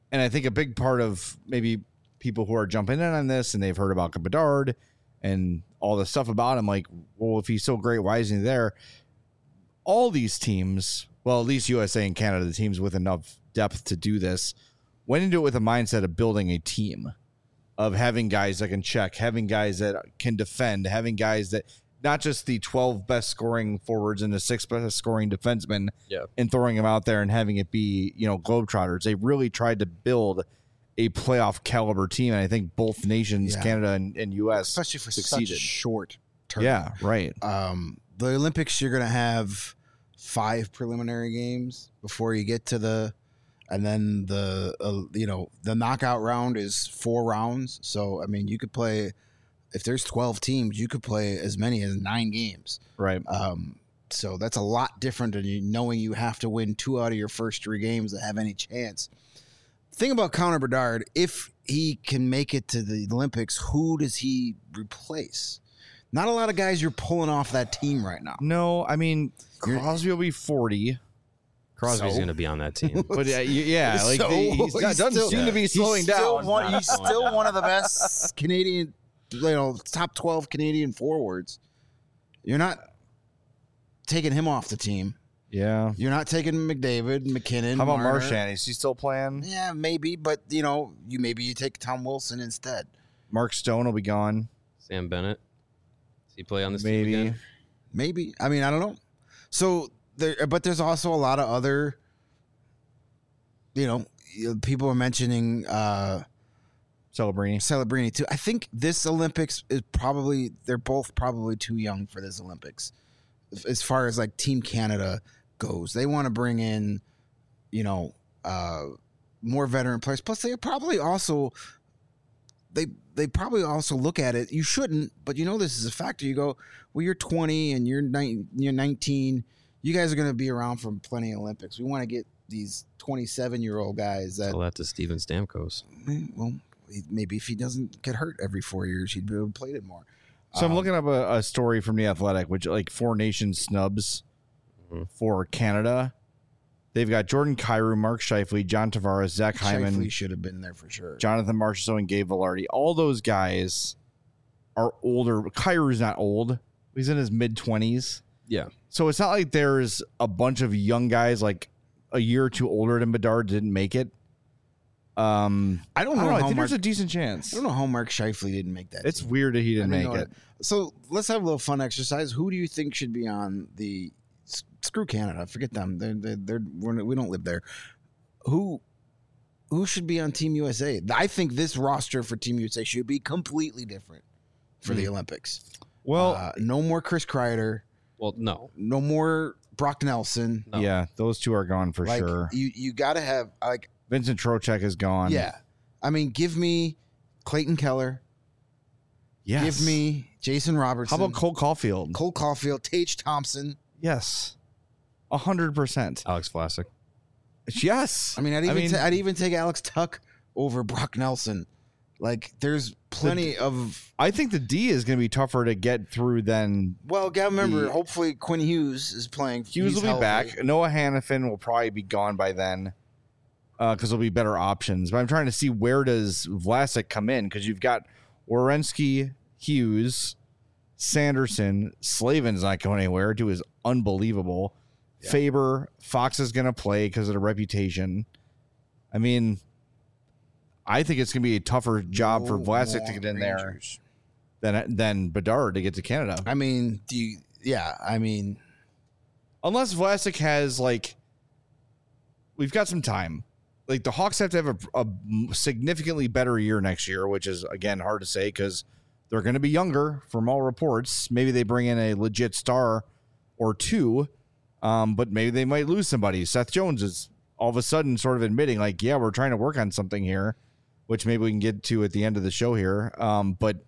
And I think a big part of maybe people who are jumping in on this and they've heard about Bedard and all the stuff about him, like, well, if he's so great, why isn't he there? All these teams, well, at least U S A and Canada, the teams with enough depth to do this, went into it with a mindset of building a team, of having guys that can check, having guys that can defend, having guys that not just the twelve best scoring forwards and the six best scoring defensemen, Yeah. and throwing them out there and having it be, you know, Globetrotters. They really tried to build a playoff caliber team. And I think both nations, Yeah. Canada and, and U S, especially for succeeded. such short term. Yeah, right. Um, the Olympics, you're going to have five preliminary games before you get to the, and then the, uh, you know, the knockout round is four rounds. So, I mean, you could play, if there's twelve teams, you could play as many as nine games. Right. Um, so that's a lot different than you knowing you have to win two out of your first three games to have any chance. Thing about Connor Bedard, if he can make it to the Olympics, who does he replace? Not a lot of guys you're pulling off that team right now. No, I mean, Crosby will be forty. Crosby's So? going to be on that team. But uh, y- yeah, like So, the, he's, he's doesn't still- seem to be He's slowing still down. one- he's still one of the best Canadian, you know, top twelve Canadian forwards. You're not taking him off the team. Yeah. You're not taking McDavid, McKinnon. How about Marner. Marchand? Is he still playing? Yeah, maybe, but you know, you maybe you take Tom Wilson instead. Mark Stone will be gone. Sam Bennett. Does he play on this Maybe. team again? Maybe. I mean, I don't know. So there, but there's also a lot of other, you know, people are mentioning uh, Celebrini. Celebrini too. I think this Olympics is probably they're both probably too young for this Olympics, as far as like Team Canada goes. They want to bring in, you know, uh, more veteran players. Plus, they probably also they they probably also look at it. You shouldn't, but you know this is a factor. You go, well, you're twenty and you're nine, you're nineteen. You guys are going to be around for plenty of Olympics. We want to get these twenty-seven year old guys that Tell that to Steven Stamkos. well, maybe if he doesn't get hurt every four years, he'd be able to play it more. So I'm Um, looking up a, a story from The Athletic, which like four nation snubs Mhm. for Canada. They've got Jordan Kyrou, Mark Scheifele, John Tavares, Zach Hyman, Scheifele should have been there for sure. Jonathan Marchessault, and Gabe Velarde. All those guys are older. Kyrou's not old. He's in his mid twenties. Yeah. So it's not like there's a bunch of young guys like a year or two older than Bedard didn't make it. Um, I don't I know, don't know. I how think Mark, there's a decent chance. I don't know how Mark Scheifele didn't make that. It's team. weird that he I didn't didn't make know it. that. So let's have a little fun exercise. Who do you think should be on the s- screw Canada? Forget them. They're, they're, they're we're, we don't live there. Who who should be on Team U S A? I think this roster for Team U S A should be completely different for the Olympics. Well, uh, no more Chris Kreider. Well, no. No more Brock Nelson. No. yeah, those two are gone for like sure. you, you got to have like Vincent Trocheck is gone. yeah. I mean, give me Clayton Keller. Yes. Give me Jason Robertson. How about Cole Caulfield? Cole Caulfield, Tage Thompson? Yes. A hundred percent. Alex Vlasic. Yes. I mean, I'd even mean, ta- I'd even take Alex Tuck over Brock Nelson. Like, there's plenty of. I think the D is going to be tougher to get through than Well, gotta remember. The- hopefully, Quinn Hughes is playing. Hughes he's will be healthy. back. Noah Hannafin will probably be gone by then because there'll be better options. But I'm trying to see where does Vlasic come in because you've got Werenski, Hughes, Sanderson, Slavin's not going anywhere. Dude is unbelievable. Yeah. Faber, Fox is going to play because of the reputation. I mean, I think it's going to be a tougher job for No Vlasic more to get in there Rangers. than than Bedard to get to Canada. I mean, do you? Yeah, I mean, Unless Vlasic has like, we've got some time. Like the Hawks have to have a, a significantly better year next year, which is again hard to say because they're going to be younger from all reports. Maybe they bring in a legit star or two, um, but maybe they might lose somebody. Seth Jones is all of a sudden sort of admitting like, yeah, we're trying to work on something here, which maybe we can get to at the end of the show here. Um, but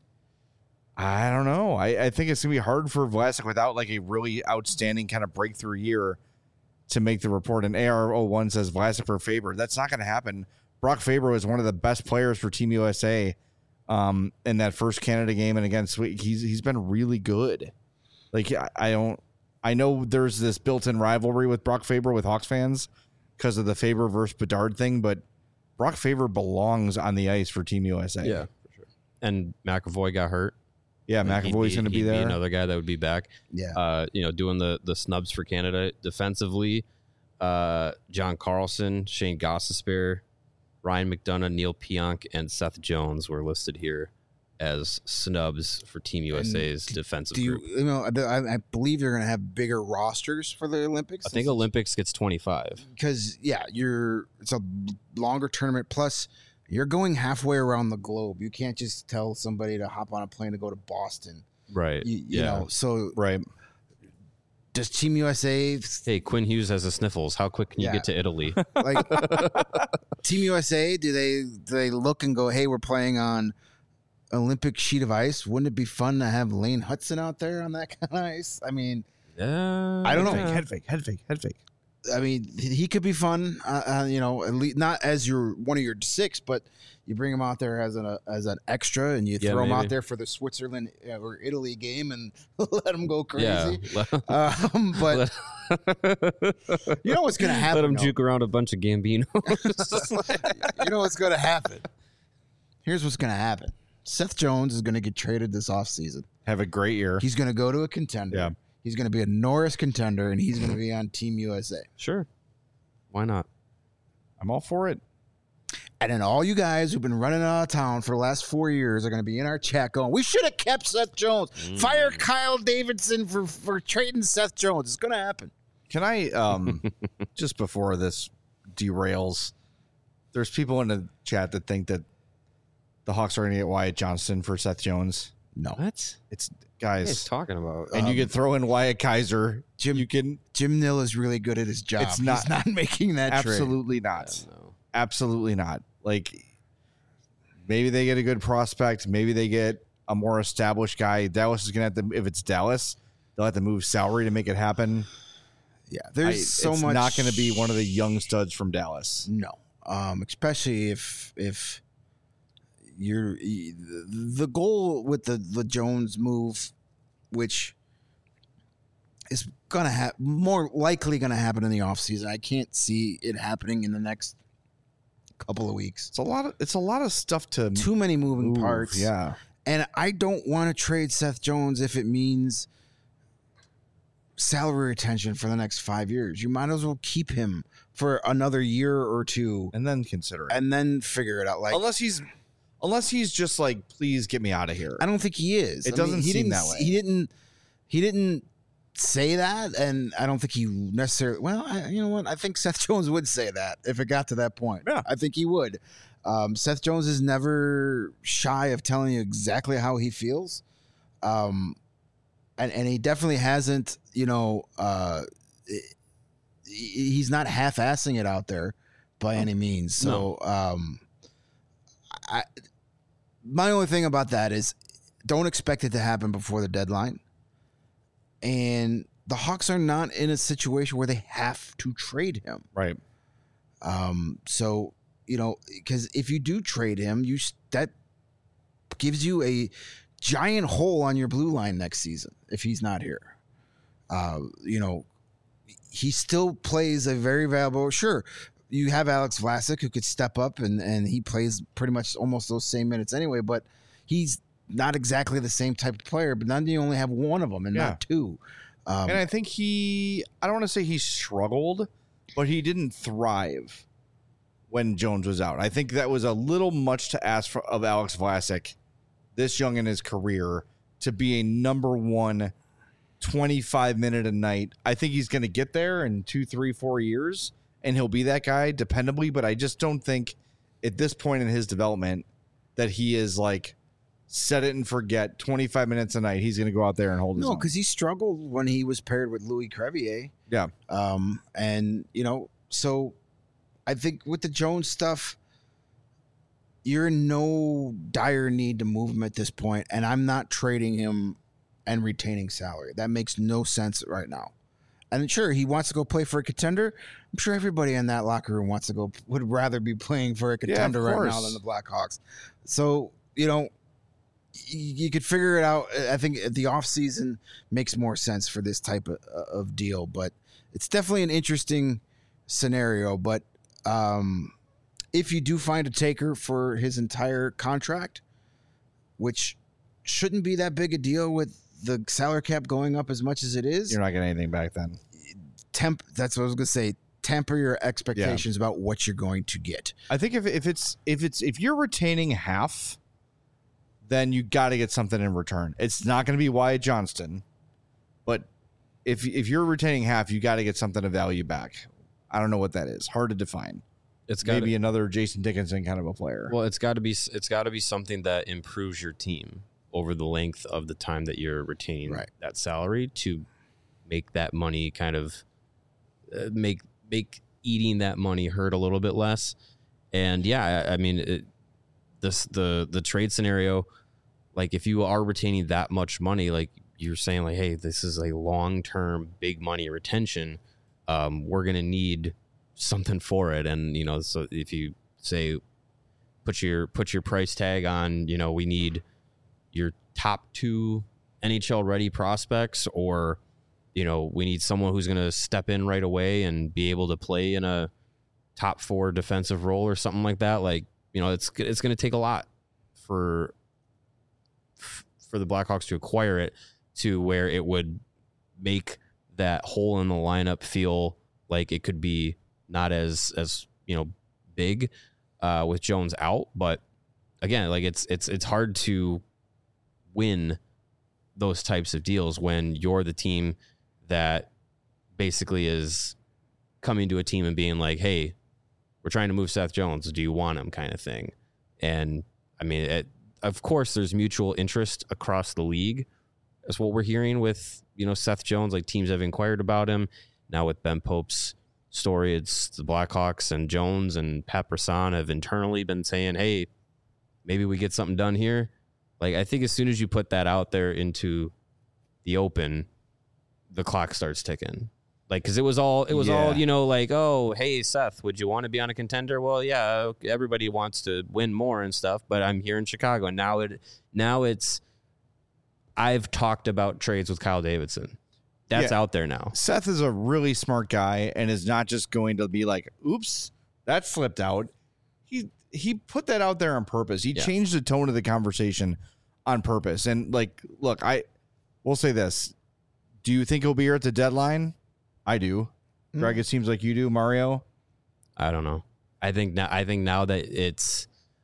I don't know. I, I think it's going to be hard for Vlasic without like a really outstanding kind of breakthrough year to make the report. And A R zero one says Vlasic for Faber. That's not going to happen. Brock Faber was one of the best players for Team U S A um, in that first Canada game and against Sweden. He's he's been really good. Like I, I don't. I know there's this built-in rivalry with Brock Faber with Hawks fans because of the Faber versus Bedard thing, but Brock Faber belongs on the ice for Team U S A. Yeah, for sure. And McAvoy got hurt. Yeah, And he'd McAvoy's going to be he'd there. another guy that would be back. Yeah. Uh, you know, doing the the snubs for Canada defensively. Uh, John Carlson, Shane Gostisbehere, Ryan McDonough, Neil Pionk, and Seth Jones were listed here as snubs for Team U S A's do, defensive Do you, group. you know? I, I believe they're going to have bigger rosters for the Olympics. I think Olympics gets twenty-five. because yeah, you're it's a longer tournament. Plus, you're going halfway around the globe. You can't just tell somebody to hop on a plane to go to Boston. Right. You, you yeah. know, so Right. does Team U S A Hey, Quinn Hughes has the sniffles. How quick can you Yeah. get to Italy? like Team U S A? Do they do they look and go, hey, we're playing on Olympic sheet of ice? Wouldn't it be fun to have Lane Hudson out there on that kind of ice? I mean, Yeah. I don't know. yeah. Head fake, head fake, head fake. I mean, he could be fun. Uh, uh, you know, at least not as your one of your six, but you bring him out there as an uh, as an extra, and you Yeah, throw him out maybe. there for the Switzerland uh, or Italy game, and let him go Yeah. crazy. Um, but you know what's going to happen? Let him though? juke around a bunch of Gambino. You know what's going to happen? Here's what's going to happen. Seth Jones is going to get traded this offseason. Have a great year. He's going to go to a contender. Yeah. He's going to be a Norris contender, and he's going to be on Team U S A. Sure. Why not? I'm all for it. And then all you guys who've been running out of town for the last four years are going to be in our chat going, we should have kept Seth Jones. Mm. Fire Kyle Davidson for, for trading Seth Jones. It's going to happen. Can I, um, just before this derails, there's people in the chat that think that the Hawks are going to get Wyatt Johnston for Seth Jones. No. What? It's What are you guys, talking about? and you Um, could throw in Wyatt Kaiser. Jim- you can Jim Nill is really good at his job. It's not- He's not making that trade. absolutely I not, don't know. absolutely not. Like maybe they get a good prospect, maybe they get a more established guy. Dallas is going to have to, if it's Dallas, they'll have to move salary to make it happen. Yeah. There's I- so it's much. not going to be one of the young studs from Dallas. No. Um, especially if if you're the goal with the, the Jones move, which is gonna have more likely gonna happen in the offseason. I can't see it happening in the next couple of weeks. It's a lot of it's a lot of stuff to Too many moving move, parts. Yeah. And I don't want to trade Seth Jones if it means salary retention for the next five years. You might as well keep him for another year or two And then consider it. and then figure it out. Like unless he's unless he's just like, please get me out of here. I don't think he is. It I doesn't he seem didn't, that way. He didn't. He didn't say that, and I don't think he necessarily. Well, I, you know what? I think Seth Jones would say that if it got to that point. Yeah. I think he would. Um, Seth Jones is never shy of telling you exactly how he feels, um, and and he definitely hasn't. You know, uh, he- he's not half-assing it out there by any means. So, um, I. My only thing about that is don't expect it to happen before the deadline. And the Hawks are not in a situation where they have to trade him. Right. Um, so, you know, because if you do trade him, you s- that gives you a giant hole on your blue line next season if he's not here. Uh, you know, he still plays a very valuable. Sure, you have Alex Vlasic who could step up and and he plays pretty much almost those same minutes anyway, but he's not exactly the same type of player. But then you only have one of them and Yeah. not two. Um, And I think he I don't want to say he struggled, but he didn't thrive when Jones was out. I think that was a little much to ask for, of Alex Vlasic, this young in his career, to be a number one twenty-five minute a night. I think he's going to get there in two, three, four years, and he'll be that guy dependably. But I just don't think at this point in his development that he is like set it and forget twenty-five minutes a night. He's going to go out there and hold his no, own. because he struggled when he was paired with Louis Crevier. Yeah. Um, and, you know, so I think with the Jones stuff, you're in no dire need to move him at this point, and I'm not trading him and retaining salary. That makes no sense right now. And sure, he wants to go play for a contender. I'm sure everybody in that locker room wants to go, would rather be playing for a contender right now course. than the Blackhawks. So, you know, y- you could figure it out. I think the offseason makes more sense for this type of, of deal, but it's definitely an interesting scenario. But um, if you do find a taker for his entire contract, which shouldn't be that big a deal with the salary cap going up as much as it is. You're not getting anything back then. Temp. That's what I was going to say. Temper your expectations yeah. about what you're going to get. I think if if it's if it's if you're retaining half, then you got to get something in return. It's not going to be Wyatt Johnston, but if if you're retaining half, you got to get something of value back. I don't know what that is. Hard to define. It's maybe gotta, another Jason Dickinson kind of a player. Well, it's got to be it's got to be something that improves your team over the length of the time that you're retaining right. that salary to make that money kind of uh, make make eating that money hurt a little bit less. And yeah, I, I mean, it, this the the trade scenario, like if you are retaining that much money, like you're saying, like, hey, this is a long term big money retention. Um, we're gonna need something for it, and you know, so if you say put your put your price tag on, you know, we need your top two N H L ready prospects, or you know, we need someone who's going to step in right away and be able to play in a top four defensive role or something like that. Like, you know, it's it's going to take a lot for for the Blackhawks to acquire it to where it would make that hole in the lineup feel like it could be not as as you know big uh, with Jones out. But again, like it's it's it's hard to win those types of deals when you're the team that basically is coming to a team and being like, hey, we're trying to move Seth Jones. Do you want him, kind of thing? And I mean, it, of course, there's mutual interest across the league. That's what we're hearing with, you know, Seth Jones. Like teams have inquired about him. Now with Ben Pope's story, it's the Blackhawks and Jones and Pat Brisson have internally been saying, hey, maybe we get something done here. Like, I think as soon as you put that out there into the open, the clock starts ticking. Like, because it was all, it was Yeah. all, you know, like, oh, hey, Seth, would you want to be on a contender? Well, yeah, everybody wants to win more and stuff, but I'm here in Chicago. And now it, now it's, I've talked about trades with Kyle Davidson. That's Yeah. out there now. Seth is a really smart guy and is not just going to be like, oops, that slipped out. He he put that out there on purpose. He Yeah. changed the tone of the conversation on purpose. And like, look, I will say this. Do you think he'll be here at the deadline? I do. Mm. Greg, it seems like you do, Mario. I don't know. I think now. I think now that it's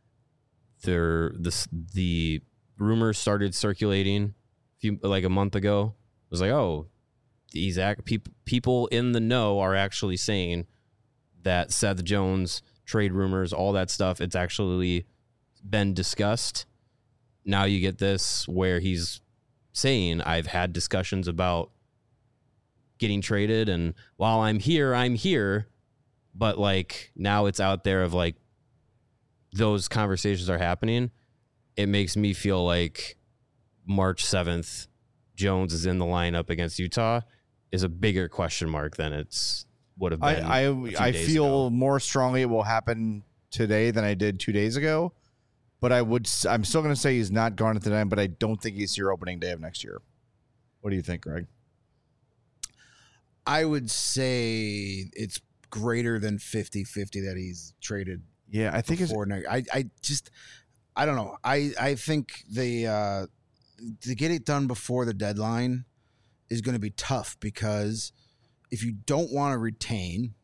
there, the the rumors started circulating a few like a month ago. It was like, oh, these act people people in the know are actually saying that Seth Jones trade rumors, all that stuff. It's actually been discussed. Now you get this where he's saying, I've had discussions about getting traded, and while I'm here, I'm here. But like now it's out there of like those conversations are happening. It makes me feel like March seventh, Jones is in the lineup against Utah is a bigger question mark than it's would have been. I a I, few I days feel ago. more strongly it will happen today than I did two days ago. But I would s- I'm still going to say he's not gone at the time, but I don't think he's here opening day of next year. What do you think, Greg? I would say it's greater than fifty-fifty that he's traded Yeah, I think it's before next. I, I just, I don't know. I, I think the uh, to get it done before the deadline is going to be tough because if you don't want to retain,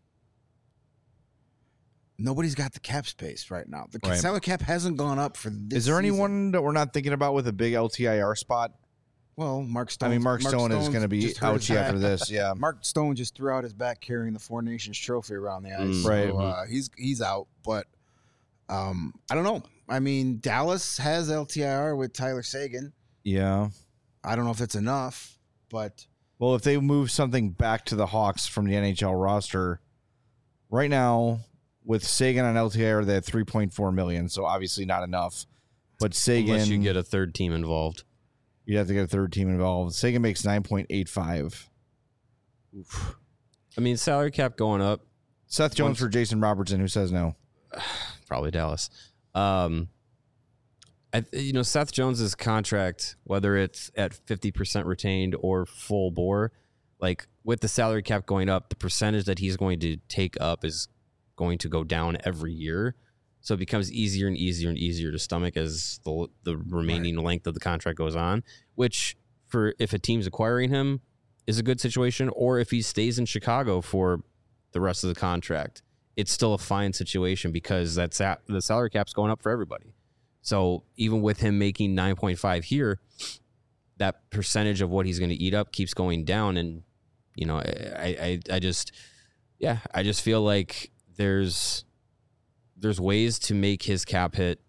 nobody's got the cap space right now. The Right. salary cap hasn't gone up for this Is there season. anyone that we're not thinking about with a big L T I R spot? Well, Mark Stone. I mean, Mark, Stone is going to be ouchy after this. Yeah. Mark Stone just threw out his back carrying the Four Nations trophy around the ice. Mm. So, Right. uh, he's he's out, but um, I don't know. I mean, Dallas has L T I R with Tyler Seguin. Yeah. I don't know if that's enough, but Well, if they move something back to the Hawks from the N H L roster, right now with Sagan on L T I R, they have three point four million dollars, so obviously not enough. But Sagan, Unless you get a third team involved. you'd have to get a third team involved. Sagan makes nine point eight five. Oof. I mean, salary cap going up. Seth Jones Once- for Jason Robertson, who says no. Probably Dallas. Um, I, you know, Seth Jones's contract, whether it's at fifty percent retained or full bore, like with the salary cap going up, the percentage that he's going to take up is going to go down every year. So it becomes easier and easier and easier to stomach as the the remaining right. length of the contract goes on, which for if a team's acquiring him is a good situation, or if he stays in Chicago for the rest of the contract, it's still a fine situation because that's at, the salary cap's going up for everybody. So even with him making nine point five here, that percentage of what he's going to eat up keeps going down. And, you know, I, I, I just, yeah, I just feel like there's, there's ways to make his cap hit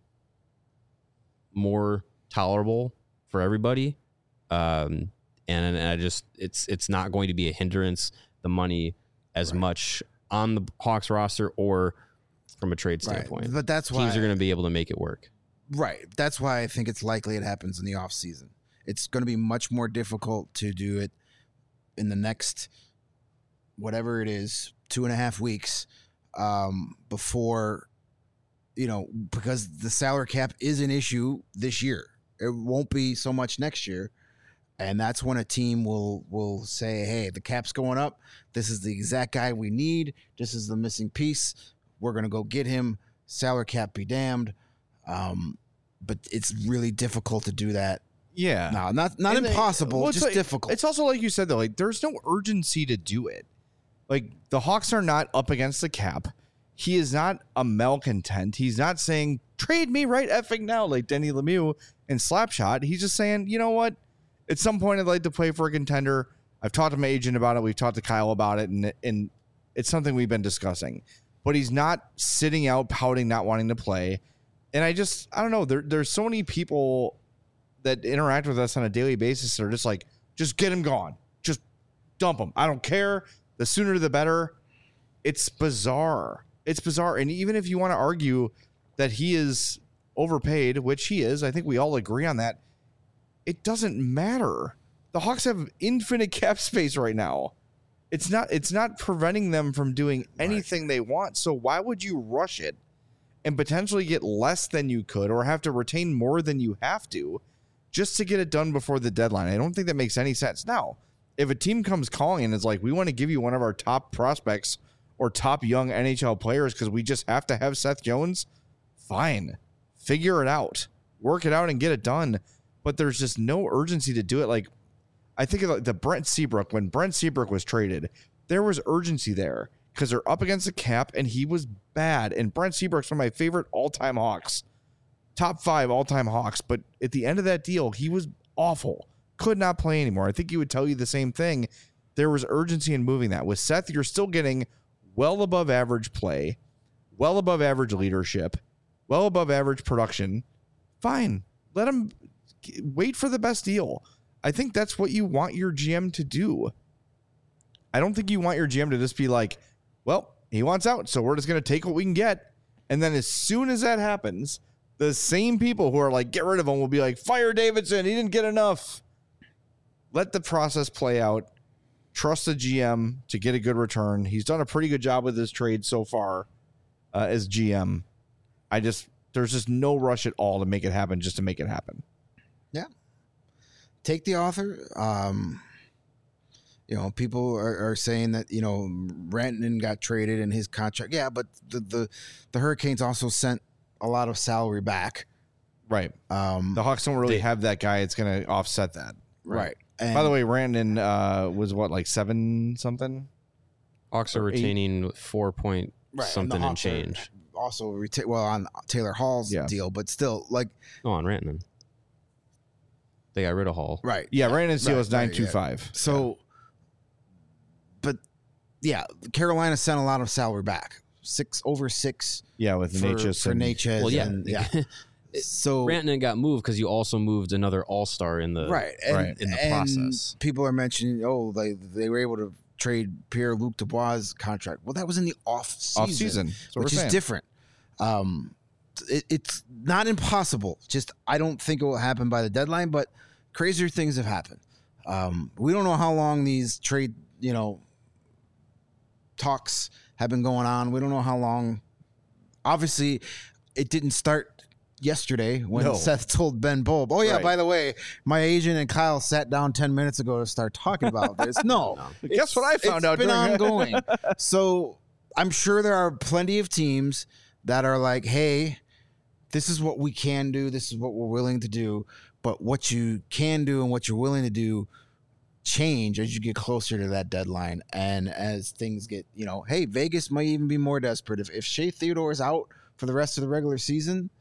more tolerable for everybody. Um, and, and I just, it's, it's not going to be a hindrance, the money as right. much on the Hawks roster or from a trade standpoint. Right. But that's why teams are going to be able to make it work. Right. That's why I think it's likely it happens in the off season. It's going to be much more difficult to do it in the next, whatever it is, two and a half weeks um, before, you know, because the salary cap is an issue this year. It won't be so much next year. And that's when a team will will say, hey, the cap's going up. This is the exact guy we need. This is the missing piece. We're going to go get him. Salary cap be damned. Um, but it's really difficult to do that. Yeah. No, not not and impossible, they, well, just like, difficult. It's also like you said, though, like there's no urgency to do it. Like the Hawks are not up against the cap. He is not a malcontent. He's not saying, trade me right effing now, like Denny Lemieux in Slapshot. He's just saying, you know what? At some point, I'd like to play for a contender. I've talked to my agent about it. We've talked to Kyle about it, and, and it's something we've been discussing. But he's not sitting out, pouting, not wanting to play. And I just, I don't know. There, there's so many people that interact with us on a daily basis that are just like, just get him gone. Just dump him. I don't care. The sooner the better. It's bizarre. It's bizarre. And even if you want to argue that he is overpaid, which he is, I think we all agree on that. It doesn't matter. The Hawks have infinite cap space right now. It's not it's not preventing them from doing anything right. they want. So why would you rush it and potentially get less than you could or have to retain more than you have to just to get it done before the deadline? I don't think that makes any sense. Now, if a team comes calling and is like, we want to give you one of our top prospects or top young N H L players because we just have to have Seth Jones, fine. Figure it out. Work it out and get it done. But there's just no urgency to do it. Like, I think of like the Brent Seabrook. When Brent Seabrook was traded, there was urgency there because they're up against the cap, and he was bad. And Brent Seabrook's one of my favorite all-time Hawks, top five all-time Hawks. But at the end of that deal, he was awful. Could not play anymore. I think he would tell you the same thing. There was urgency in moving that. With Seth, you're still getting well above average play, well above average leadership, well above average production. Fine. Let him wait for the best deal. I think that's what you want your G M to do. I don't think you want your G M to just be like, well, he wants out, so we're just going to take what we can get. And then as soon as that happens, the same people who are like, get rid of him will be like, fire Davidson. He didn't get enough. Let the process play out. Trust the G M to get a good return. He's done a pretty good job with this trade so far uh, as G M. I just, there's just no rush at all to make it happen just to make it happen. Yeah. Take the author. Um, you know, people are, are saying that, you know, Rantanen got traded in his contract. Yeah, but the, the, the Hurricanes also sent a lot of salary back. Right. Um, the Hawks don't really they, have that guy. It's going to offset that. Right. right. And by the way, Rantanen uh, was what, like seven something? Hawks are retaining eight? four point right. something and, and change. Also, reta- well, on Taylor Hall's yeah. deal, but still, like. No, on Rantanen. They got rid of Hall. Right. Yeah, Rantanen's deal right, is nine two five. Right, yeah. So, yeah. but, yeah, Carolina sent a lot of salary back. Six, over six. Yeah, with for, Necas. For Necas. Well, yeah. And, yeah. So Rantanen got moved because you also moved another all-star in the right, and, right in the and process. People are mentioning, oh, they they were able to trade Pierre-Luc Dubois' contract. Well, that was in the off season, off season, which is different. Um, it, it's not impossible. Just I don't think it will happen by the deadline, but crazier things have happened. Um, we don't know how long these trade, you know, talks have been going on. We don't know how long. Obviously, it didn't start yesterday when no. Seth told Ben Bulb, oh, yeah, right. by the way, my agent and Kyle sat down ten minutes ago to start talking about this. No. no. Guess what I found it's out? It's been ongoing. So I'm sure there are plenty of teams that are like, hey, this is what we can do. This is what we're willing to do. But what you can do and what you're willing to do change as you get closer to that deadline. And as things get, you know, hey, Vegas might even be more desperate. If, if Shea Theodore is out for the rest of the regular season,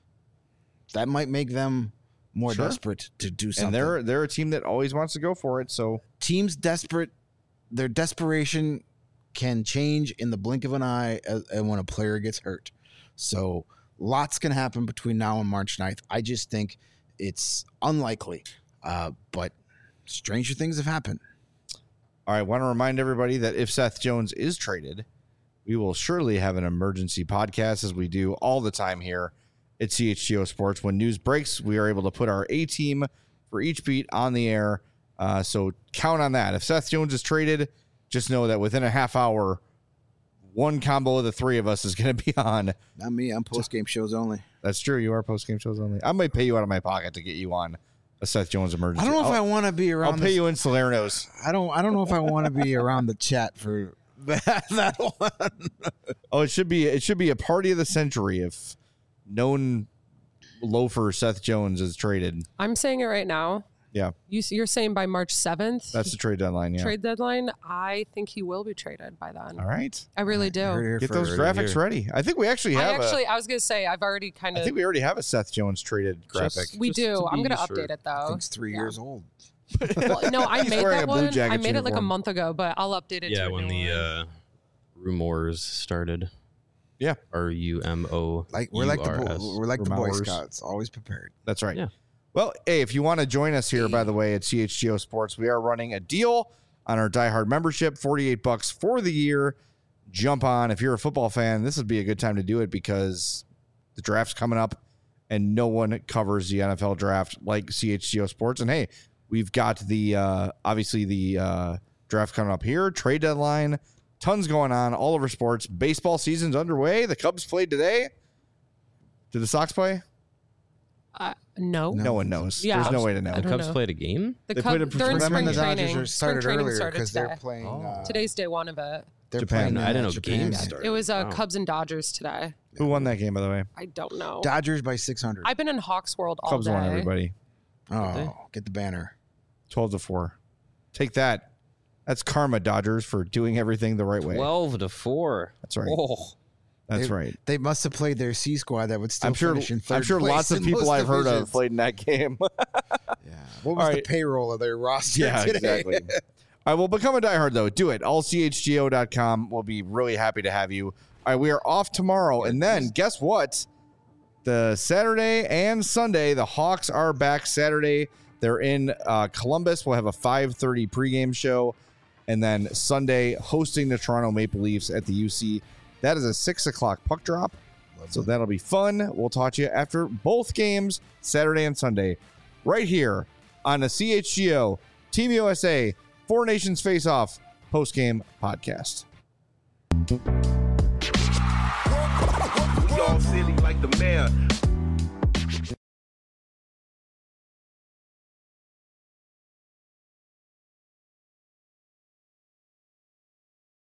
that might make them more Sure. desperate to do something. And they're they're a team that always wants to go for it. So Teams desperate, their desperation can change in the blink of an eye as, and when a player gets hurt. So lots can happen between now and March ninth. I just think it's unlikely, uh, but stranger things have happened. all right, I want to remind everybody that if Seth Jones is traded, we will surely have an emergency podcast as we do all the time here at C H G O Sports. When news breaks, we are able to put our A team for each beat on the air. Uh, so count on that. If Seth Jones is traded, just know that within a half hour, one combo of the three of us is going to be on. Not me. I'm post game shows only. That's true. You are post game shows only. I might pay you out of my pocket to get you on a Seth Jones emergency. I don't know if I I'll, want to be around. I'll pay this- you in Salerno's. I don't. I don't know if I want to be around the chat for that. that one. Oh, it should be. It should be a party of the century if known loafer Seth Jones is traded. I'm saying it right now. Yeah, You, you're saying by March seventh, that's the trade deadline. Yeah. trade deadline. I think he will be traded by then. All right. I really do. Heard it here Get those first. graphics ready. I think we actually I have. actually, a, I was gonna say, I've already kind I of. think we already have a Seth Jones traded graphic. Just- We just do. to I'm be gonna sure. update it I though. think it's three Yeah. years old. Well, no, I He's made wearing that a Blue one. I Jackets made it like a uniform. month ago, but I'll update it. Yeah, to a when new the one. uh, rumors started. Yeah. R U M O. Like we're like the U R S. Bo- we're like the Boy Remowers. Scouts, always prepared. That's right. Yeah. Well, hey, if you want to join us here, by the way, at C H G O Sports, we are running a deal on our Die Hard membership, forty-eight bucks for the year. Jump on. If you're a football fan, this would be a good time to do it because the draft's coming up and no one covers the N F L draft like C H G O Sports. And hey, we've got the, uh, obviously the uh, draft coming up here, trade deadline, tons going on all over sports. Baseball season's underway. The Cubs played today. Did the Sox play? Uh, no. No. No one knows. Yeah. There's no way to know. I The don't Cubs know. played a game. The They Cub, played a they're in Remember spring Remember the training. Dodgers are started spring training earlier started because they're today. playing. Oh. Uh, Today's day one of it. they're Japan. playing. I didn't uh, know Japan. games Yeah. started. It was uh, Wow. Cubs and Dodgers today. Who won that game, by the way? I don't know. Dodgers by six hundred. I've been in Hawks World all Cubs day. won, everybody. Oh, get the banner. twelve to four. Take that. That's karma, Dodgers, for doing everything the right way. Twelve to four. That's right. Oh. That's they, right. They must have played their C squad that would still I'm sure. finish in third I'm sure place lots of in people most I've heard of divisions. played in that game. Yeah. What was All the right. payroll of their roster yeah, today? exactly. All right, well, become a diehard though. Do it. all c h g o dot com. We'll be really happy to have you. All right, we are off tomorrow, and then guess what? The Saturday and Sunday, the Hawks are back. Saturday, they're in uh, Columbus. We'll have a five thirty pregame show, and then Sunday hosting the Toronto Maple Leafs at the U C. That is a six o'clock puck drop. So that'll be fun. We'll talk to you after both games, Saturday and Sunday, right here on the C H G O Team U S A Four Nations Face Off post-game podcast. We all silly like the mayor.